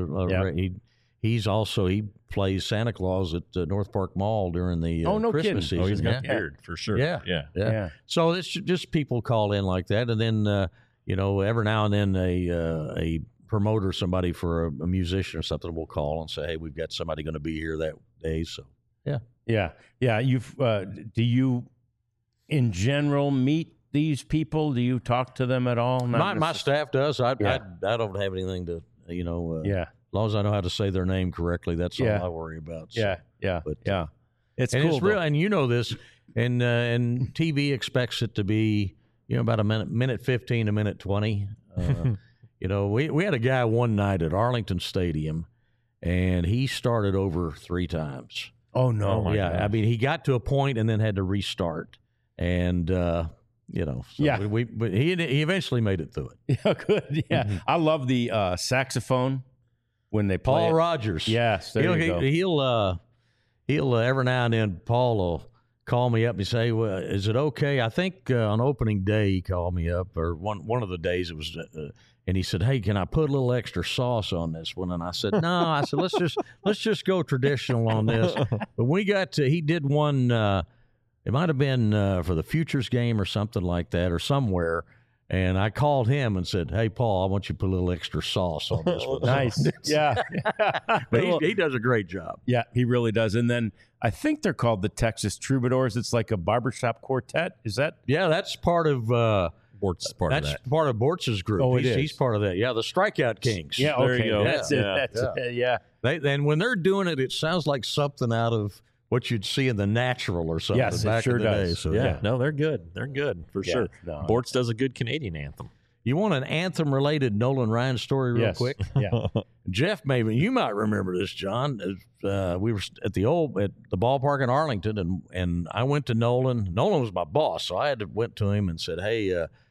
He plays Santa Claus at North Park Mall during the Christmas season.
Oh, he's got beard for sure.
Yeah. So it's just people call in like that, and then every now and then a promoter, somebody for a musician or something, will call and say, "Hey, we've got somebody going to be here that day." So
yeah. You've do you in general meet these people? Do you talk to them at all?
My staff does. I don't have anything to as long as I know how to say their name correctly, that's all I worry about. So.
It's
and
cool.
It's real, and you know this, and TV expects it to be about a minute 15, a minute 20. We had a guy one night at Arlington Stadium, and he started over 3 times.
Oh no!
Gosh. I mean, he got to a point and then had to restart, and but he eventually made it through it.
Yeah, good. Yeah, I love the saxophone when they play
Paul Rogers.
Yes, there you
go. He'll every now and then Paul will call me up and say, "Well, is it okay?" I think on opening day he called me up, or one of the days it was. And he said, "Hey, can I put a little extra sauce on this one?" And I said, "No." I said, "Let's just go traditional on this." But we got to, he did one. It might have been for the Futures game or something like that, or somewhere. And I called him and said, "Hey, Paul, I want you to put a little extra sauce on this one."
Nice. Yeah.
But he does a great job.
Yeah, he really does. And then I think they're called the Texas Troubadours. It's like a barbershop quartet. Is that?
Yeah, that's part of.
Bort's part of that.
That's part of Bortz's group.
Oh,
he's part of that. Yeah, the Strikeout Kings.
Yeah,
there you go.
That's it. Yeah.
And when they're doing it, it sounds like something out of what you'd see in The Natural or something.
Yes,
back
it sure
in the
does.
day. So,
Yeah, no, they're good. They're good for sure.
No.
Bortz does a good Canadian anthem.
You want an anthem-related Nolan Ryan story real quick?
Yeah.
Jeff Maven, you might remember this, John. We were at the ballpark in Arlington, and I went to Nolan. Nolan was my boss, so I went to him and said, "Hey,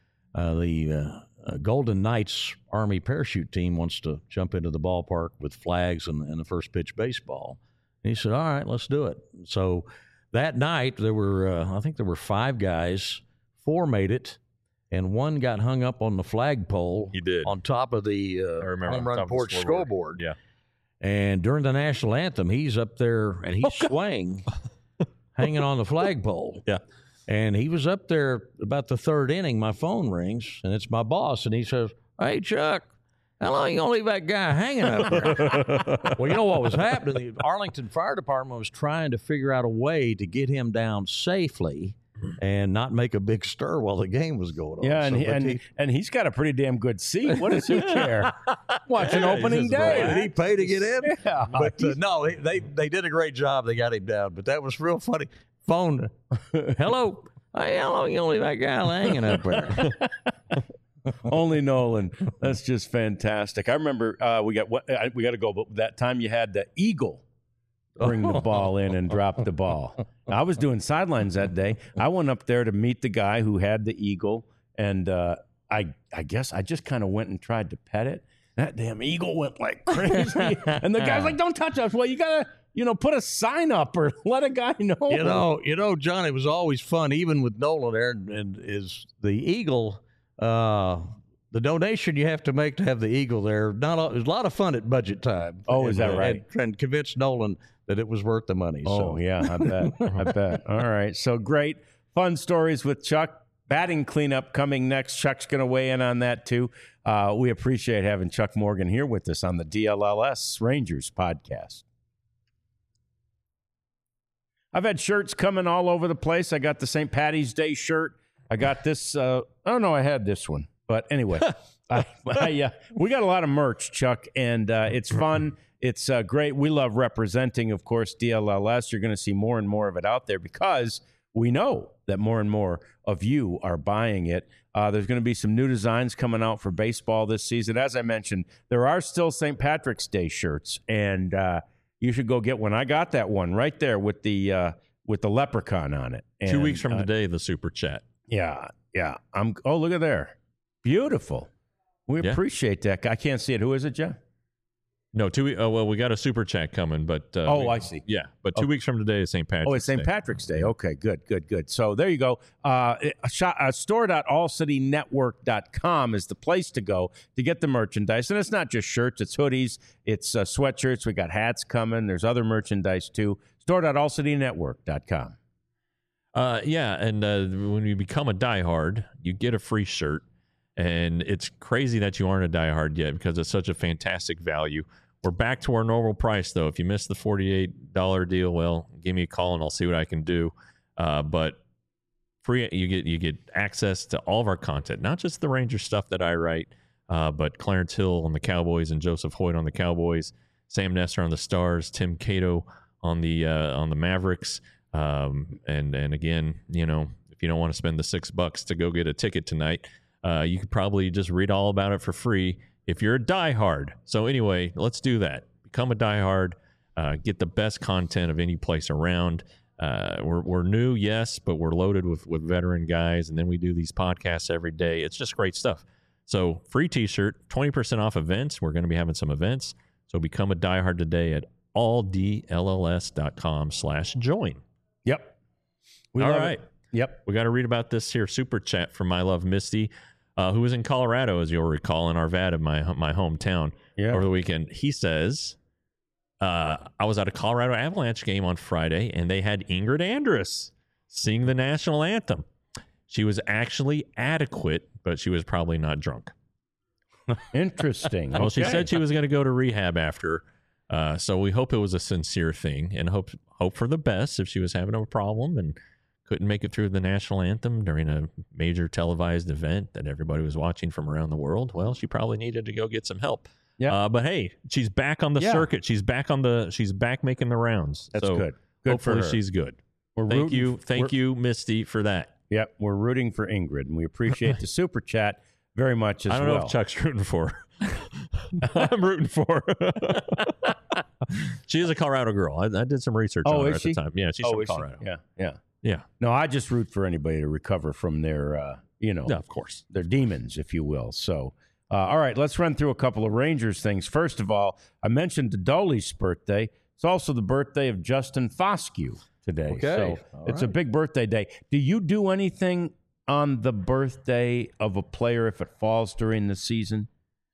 the Golden Knights Army parachute team wants to jump into the ballpark with flags and the first pitch baseball." And he said, "All right, let's do it." So that night there were, I think there were 5 guys. 4 made it, and 1 got hung up on the flagpole.
He did.
On top of the home run porch scoreboard.
Yeah.
And during the national anthem, he's up there and he's swaying, hanging on the flagpole.
Yeah.
And he was up there about the 3rd inning. My phone rings, and it's my boss, and he says, "Hey, Chuck, how long you going to leave that guy hanging up there?" Well, you know what was happening? The Arlington Fire Department was trying to figure out a way to get him down safely and not make a big stir while the game was going on.
Yeah, and he's got a pretty damn good seat. What does he care? Watching opening day.
Did he pay to get in?
Yeah.
But no, they did a great job. They got him down. But that was real funny. Phone. Hello. Hey, how long you gonna leave that guy hanging up there?
Only Nolan. That's just fantastic. I remember we got to go, but that time you had the Eagle bring the ball in and drop the ball. I was doing sidelines that day. I went up there to meet the guy who had the Eagle, and I guess I just kind of went and tried to pet it. That damn Eagle went like crazy, and the guy's like, "Don't touch us." Well, you gotta. Put a sign up or let a guy know.
John, it was always fun, even with Nolan there, and is the Eagle, the donation you have to make to have the Eagle there. It was a lot of fun at budget time.
Oh, is that right?
And convince Nolan that it was worth the money.
Oh, yeah, I bet. All right. So great. Fun stories with Chuck. batting cleanup coming next. Chuck's going to weigh in on that too. We appreciate having Chuck Morgan here with us on the DLLS Rangers podcast. I've had shirts coming all over the place. I got the St. Patty's Day shirt. I got this. I had this one. But anyway, we got a lot of merch, Chuck, and it's fun. It's great. We love representing, of course, DLLS. You're going to see more and more of it out there because we know that more and more of you are buying it. There's going to be some new designs coming out for baseball this season. As I mentioned, there are still St. Patrick's Day shirts, and you should go get one. I got that one right there with the leprechaun on it. And,
2 weeks from today, the Super Chat.
Yeah. Oh, look at there. Beautiful. We appreciate that. I can't see it. Who is it, Jeff?
No, 2 weeks. Oh, well, we got a Super Chat coming, but
I see.
Yeah, but 2 weeks from today is St. Patrick's Day.
Oh, it's St. Patrick's Day. Okay, good. So there you go. Store.allcitynetwork.com is the place to go to get the merchandise. And it's not just shirts, it's hoodies, it's sweatshirts. We got hats coming. There's other merchandise too. Store.allcitynetwork.com.
And when you become a diehard, you get a free shirt. And it's crazy that you aren't a diehard yet because it's such a fantastic value. We're back to our normal price, though. If you missed the $48 deal, well, give me a call and I'll see what I can do. But free, you get access to all of our content, not just the Ranger stuff that I write, but Clarence Hill on the Cowboys and Joseph Hoyt on the Cowboys, Sam Nestor on the Stars, Tim Cato on the Mavericks. And again, if you don't want to spend the $6 to go get a ticket tonight, you could probably just read all about it for free if you're a diehard. So anyway, let's do that. Become a diehard. Get the best content of any place around. We're new, yes, but we're loaded with veteran guys, and then we do these podcasts every day. It's just great stuff. So free T-shirt, 20% off events. We're going to be having some events. So become a diehard today at alldlls.com/join.
Yep.
All right.
Yep.
We got to read about this here super chat from My Love Misty, who was in Colorado, as you'll recall, in Arvada, my hometown, over the weekend. He says, I was at a Colorado Avalanche game on Friday, and they had Ingrid Andress sing the national anthem. She was actually adequate, but she was probably not drunk.
Interesting.
Well, she said she was going to go to rehab after, so we hope it was a sincere thing, and hope for the best if she was having a problem and couldn't make it through the national anthem during a major televised event that everybody was watching from around the world. Well, she probably needed to go get some help. Yeah. But hey, she's back on the circuit. She's back making the rounds.
That's
so
good.
Hopefully she's good. Thank you, Misty, for that.
Yep. We're rooting for Ingrid, and we appreciate the super chat very much as well.
I don't know if Chuck's rooting for her. I'm rooting for her. She is a Colorado girl. I did some research on her at the time. Yeah, she's from Colorado. Yeah.
No, I just root for anybody to recover from their,
of course,
their demons, if you will. So, all right, let's run through a couple of Rangers things. First of all, I mentioned Dolly's birthday. It's also the birthday of Justin Foscue today.
Okay.
So it's a big birthday day. Do you do anything on the birthday of a player if it falls during the season?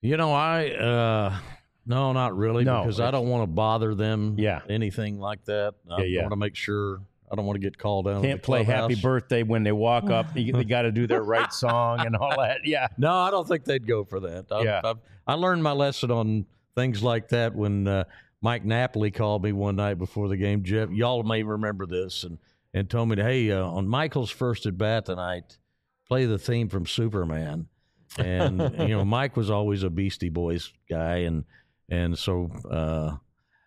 No, not really, because I don't want to bother them. Anything like that. I want to make sure. I don't want to get called out.
Can't play Happy Birthday when they walk up. They got to do their right song and all that. Yeah.
No, I don't think they'd go for that. I learned my lesson on things like that when Mike Napoli called me one night before the game. Jeff, y'all may remember this, and told me, hey, on Michael's first at bat tonight, play the theme from Superman. And Mike was always a Beastie Boys guy, and so.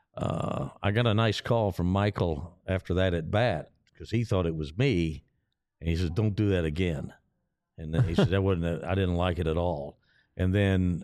I got a nice call from Michael after that at bat because he thought it was me, and he said, "Don't do that again." And then he said, "That wasn't. I didn't like it at all." And then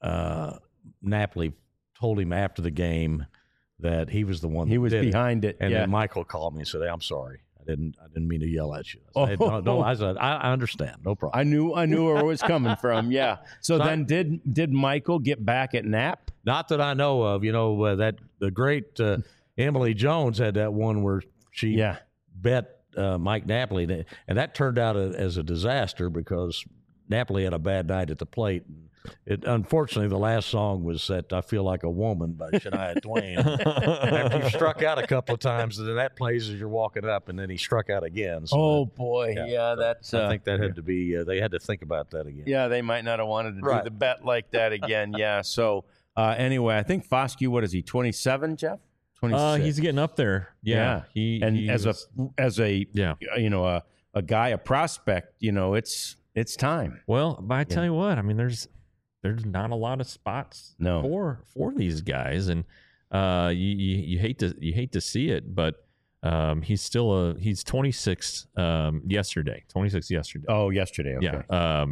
Napoli told him after the game that he was the one. He was
behind it.
And then Michael called me and said, "Hey, I'm sorry. I didn't mean to yell at you." I said, no, I said, I understand. No problem.
I knew where it was coming from. Yeah. So then did Michael get back at Nap?
Not that I know of. That the great Emily Jones had that one where she bet Mike Napoli, and that turned out as a disaster because Napoli had a bad night at the plate. Unfortunately, the last song was that "I Feel Like a Woman" by Shania Twain. After you struck out a couple of times, and then that plays as you're walking up, and then he struck out again. So
boy, that's.
I think that had to be. They had to think about that again.
Yeah, they might not have wanted to do the bet like that again. Yeah. So anyway, I think Foscue. What is he? 27, Jeff? 26.
He's getting up there. Yeah.
As a guy, a prospect, it's time.
Well, but I tell you what, I mean, there's not a lot of spots for these guys, and you hate to see it, but he's 26 yesterday. 26 yesterday.
Oh, yesterday. Okay.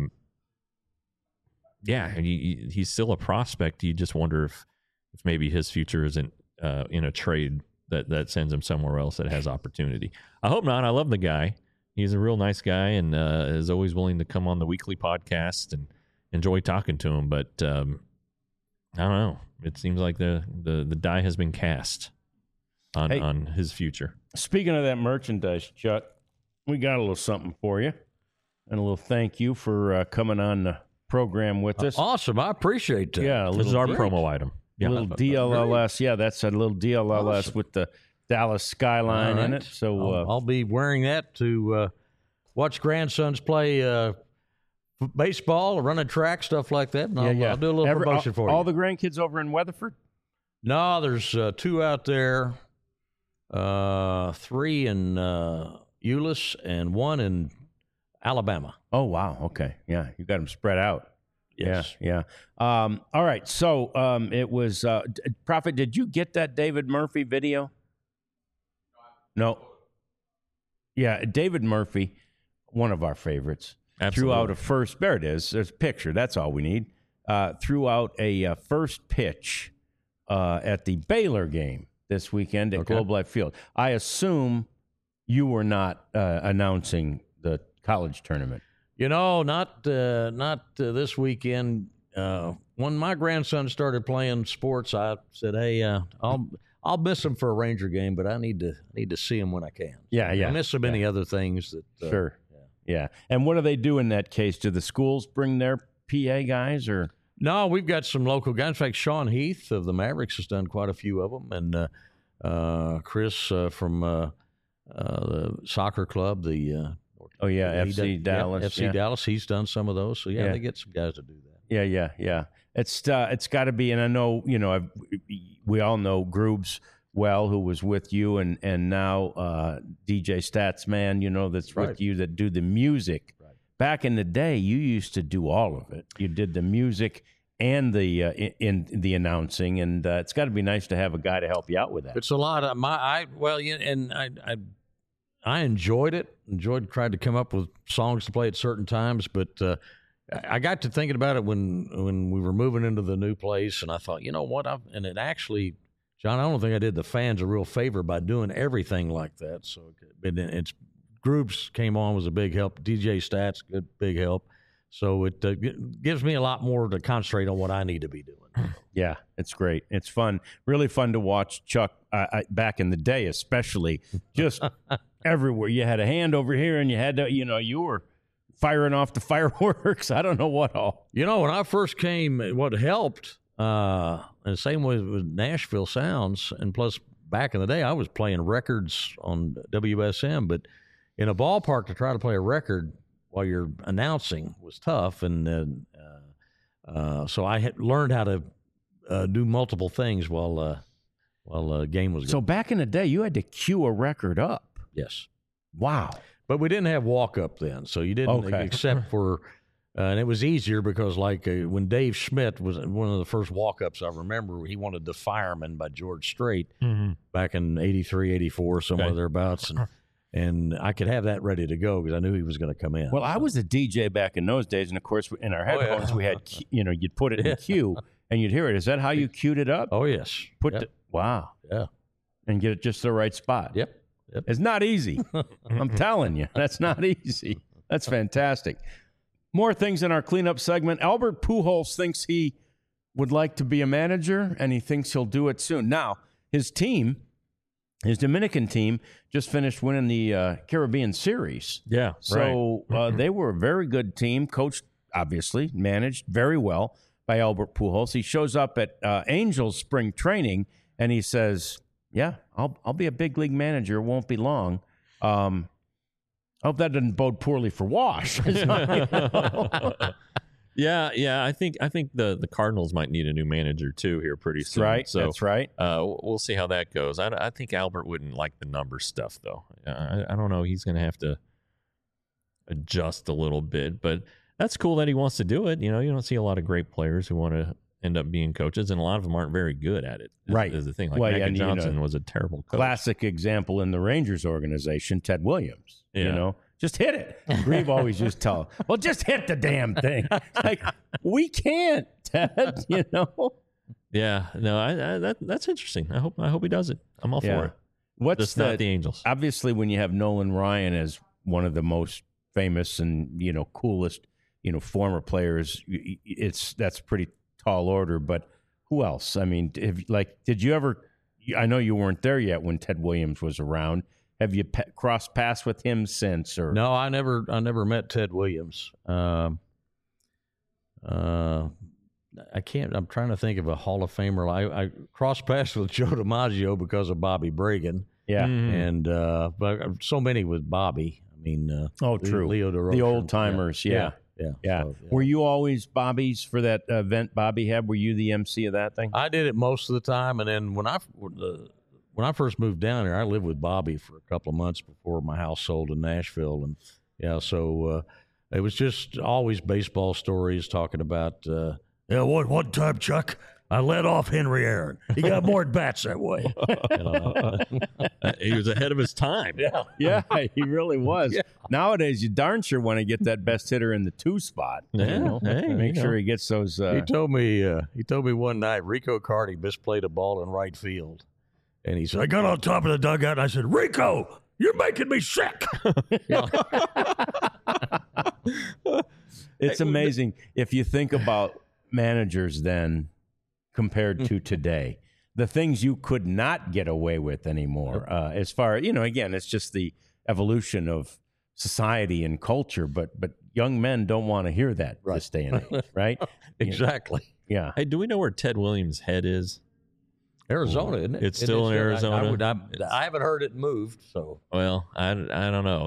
Yeah. He's still a prospect. You just wonder if maybe his future isn't in a trade that sends him somewhere else that has opportunity. I hope not. I love the guy. He's a real nice guy and is always willing to come on the weekly podcast and enjoy talking to him. But I don't know. It seems like the die has been cast on his future.
Speaking of that merchandise, Chuck, we got a little something for you and a little thank you for coming on the program with us.
Awesome. I appreciate that.
Yeah,
this is our promo item.
A little DLLS. Yeah, that's a little DLLS with the Dallas skyline in it. So
I'll be wearing that to watch grandsons play baseball or running track, stuff like that. And I'll do a little promotion for you.
All the grandkids over in Weatherford?
No, there's 2 out there, 3 in Euless, and 1 in Alabama.
Oh, wow. Okay. Yeah, you got them spread out.
Yes.
Yeah. All right. So it was Prophet. Did you get that David Murphy video? No. Yeah, David Murphy, one of our favorites, threw out a first. There it is. There's a picture. That's all we need. Threw out a first pitch at the Baylor game this weekend at Globe Life Field. I assume you were not announcing the college tournament.
Not this weekend. When my grandson started playing sports, I said, "Hey, I'll miss him for a Ranger game, but I need to see him when I can."
Yeah.
I miss so many other things that.
Sure. Yeah. And what do they do in that case? Do the schools bring their PA guys or?
No, we've got some local guys. In fact, Sean Heath of the Mavericks has done quite a few of them, and Chris from the soccer club, the.
FC Dallas.
FC Dallas. He's done some of those. So, they get some guys to do that.
Yeah. It's got to be, and I know, we all know Groobs well, who was with you, and now DJ Stats Man, that's with you, that do the music. Right. Back in the day, you used to do all of it. You did the music and the in the announcing, and it's got to be nice to have a guy to help you out with that.
It's a lot of I enjoyed it. Tried to come up with songs to play at certain times, but I got to thinking about it when we were moving into the new place, and I thought, you know what? And it actually, John, I don't think I did the fans a real favor by doing everything like that. So it's Groups came on, was a big help. DJ Stats, good big help. So it gives me a lot more to concentrate on what I need to be doing.
Yeah, it's great. It's fun. Really fun to watch Chuck back in the day, especially just everywhere. You had a hand over here and you had to, you were firing off the fireworks. I don't know what all.
When I first came, what helped, and the same way with Nashville Sounds, and plus back in the day, I was playing records on WSM, but in a ballpark to try to play a record while you're announcing was tough, and so I had learned how to do multiple things while a game was going.
So back in the day, you had to cue a record up.
Yes.
Wow.
But we didn't have walk-up then, so you didn't, except for and it was easier because, when Dave Schmidt was one of the first walk-ups I remember, he wanted The Fireman by George Strait back in 83, 84, somewhere thereabouts, and I could have that ready to go because I knew he was going to come in.
Well, I was a DJ back in those days, and of course, in our headphones, we had, you'd put it in cue, and you'd hear it. Is that how you cued it up?
Oh, yes.
Wow.
Yeah.
And get it just the right spot.
Yep.
It's not easy. I'm telling you, that's not easy. That's fantastic. More things in our cleanup segment. Albert Pujols thinks he would like to be a manager, and he thinks he'll do it soon. Now, his team, his Dominican team, just finished winning the Caribbean Series.
Yeah,
so they were a very good team, coached obviously managed very well by Albert Pujols. He shows up at Angels spring training, and he says, yeah, I'll be a big league manager. It won't be long. I hope that doesn't bode poorly for Wash.
Yeah. I think the Cardinals might need a new manager too here pretty soon.
Right.
So,
that's right.
We'll see how that goes. I think Albert wouldn't like the number stuff though. I don't know. He's going to have to adjust a little bit, but that's cool that he wants to do it. You know, you don't see a lot of great players who want to end up being coaches, and a lot of them aren't very good at it.
Right.
Is the thing. Like Mackin Johnson was a terrible coach.
Classic example in the Rangers organization, Ted Williams.
Yeah.
You know, just hit it. Grieve always used to tell him, well, just hit the damn thing. Like, we can't, Ted, you know?
Yeah. No, that's interesting. I hope he does it. I'm all for it.
What's
just not the Angels.
Obviously, when you have Nolan Ryan as one of the most famous and, you know, coolest, you know, former players, that's pretty tall order. But who else? I mean, did you ever? I know you weren't there yet when Ted Williams was around. Have you crossed paths with him since? Or
no, I never met Ted Williams. I can't. I'm trying to think of a Hall of Famer. I crossed paths with Joe DiMaggio because of Bobby Bragan.
Yeah,
and but so many with Bobby. I mean,
true.
Leo DeRocher,
the old timers. Yeah. So, yeah. Were you always Bobby's for that event Bobby had? Were you the MC of that thing?
I did it most of the time, and then when I first moved down here, I lived with Bobby for a couple of months before my house sold in Nashville, and so it was just always baseball stories talking about. One time, Chuck, I led off Henry Aaron. He got more at bats that way.
He was ahead of his time.
Yeah, he really was. Yeah. Nowadays, you darn sure want to get that best hitter in the 2 spot.
Yeah,
you know? Make sure he gets those.
He told me one night Rico Carty misplayed a ball in right field, and he said, "I got on top of the dugout and I said, Rico, you're making me sick."
It's amazing if you think about managers then compared to today, the things you could not get away with anymore. As far, you know, again, it's just the evolution of society and culture, but young men don't want to hear that this day and age, right?
Exactly.
Yeah.
Hey, do we know where Ted Williams' head is?
Arizona, isn't it?
It's still in Arizona.
I haven't heard it moved. So
well, I don't know.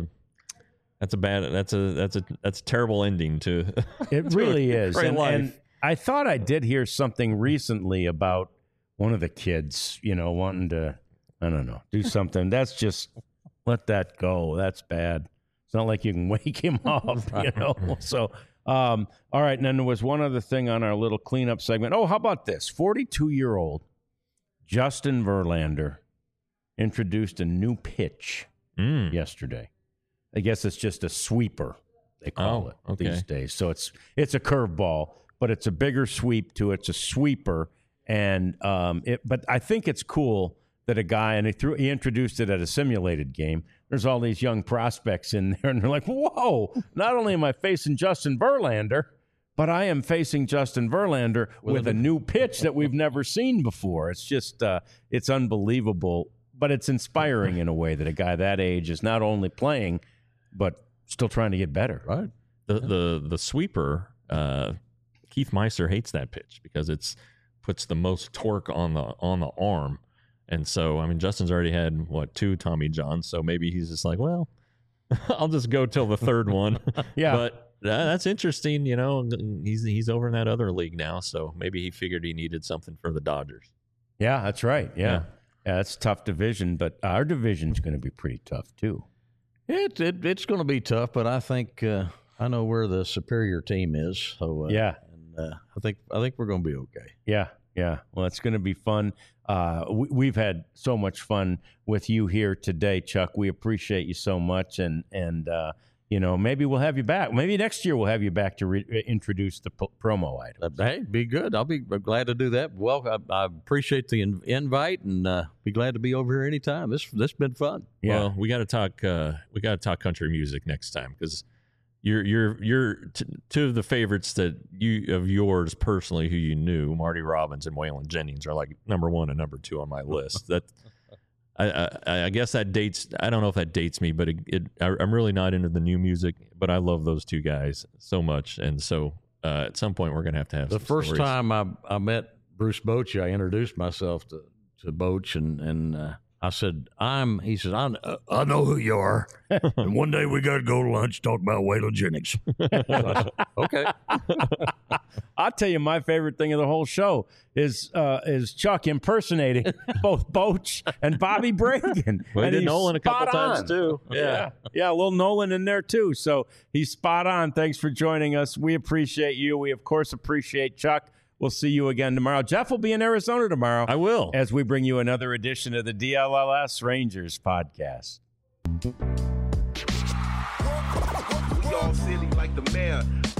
That's a terrible ending to.
It really is.
And
I thought I did hear something recently about one of the kids, you know, wanting to, I don't know, do something. That's just let that go. That's bad. It's not like you can wake him up, you know. So, all right. And then there was one other thing on our little cleanup segment. Oh, how about this? 42-year-old Justin Verlander introduced a new pitch yesterday. I guess it's just a sweeper, they call it these days. So it's a curveball, but it's a bigger sweep to it. It's a sweeper, and but I think it's cool that a guy, and he introduced it at a simulated game. There's all these young prospects in there, and they're like, whoa, not only am I facing Justin Verlander, but I am facing Justin Verlander with a new pitch that we've never seen before. It's just, it's unbelievable, but it's inspiring in a way that a guy that age is not only playing, but still trying to get better.
Right.
The sweeper, Keith Meister hates that pitch because it's puts the most torque on the arm. And so, I mean, Justin's already had, 2 Tommy Johns, so maybe he's just like, well, I'll just go till the third one.
Yeah.
But that's interesting, you know. He's over in that other league now, so maybe he figured he needed something for the Dodgers.
Yeah, that's right. Yeah, it's a tough division, but our division's going to be pretty tough, too.
It's going to be tough, but I think I know where the superior team is. So
yeah,
and I think we're going to be okay.
Yeah. Well, it's going to be fun. We've had so much fun with you here today, Chuck. We appreciate you so much, and you know, maybe we'll have you back. Maybe next year we'll have you back to introduce the promo item.
Hey, be good. I'll be glad to do that. Well, I appreciate the invite, and be glad to be over here anytime. This been fun.
Yeah, well, we got to talk. We got to talk country music next time because you're two of the favorites of yours personally who you knew, Marty Robbins and Waylon Jennings, are like number 1 and number 2 on my list. I guess that dates. I don't know if that dates me, but I'm really not into the new music. But I love those two guys so much, and so at some point we're gonna have
the first
stories.
time I met Bruce Bochy, I introduced myself to Boch, and I said, he said, I know who you are, and one day we got to go to lunch, talk about Waylon Jennings. So I said, okay.
I'll tell you, my favorite thing of the whole show is Chuck impersonating both Boch and Bobby Bragan.
We
and
did
he's
Nolan a couple
spot
times
on.
too.
Yeah, a little Nolan in there too. So he's spot on. Thanks for joining us. We appreciate you. We, of course, appreciate Chuck. We'll see you again tomorrow. Jeff will be in Arizona tomorrow.
I will.
As we bring you another edition of the DLLS Rangers podcast.
We all silly like the mayor.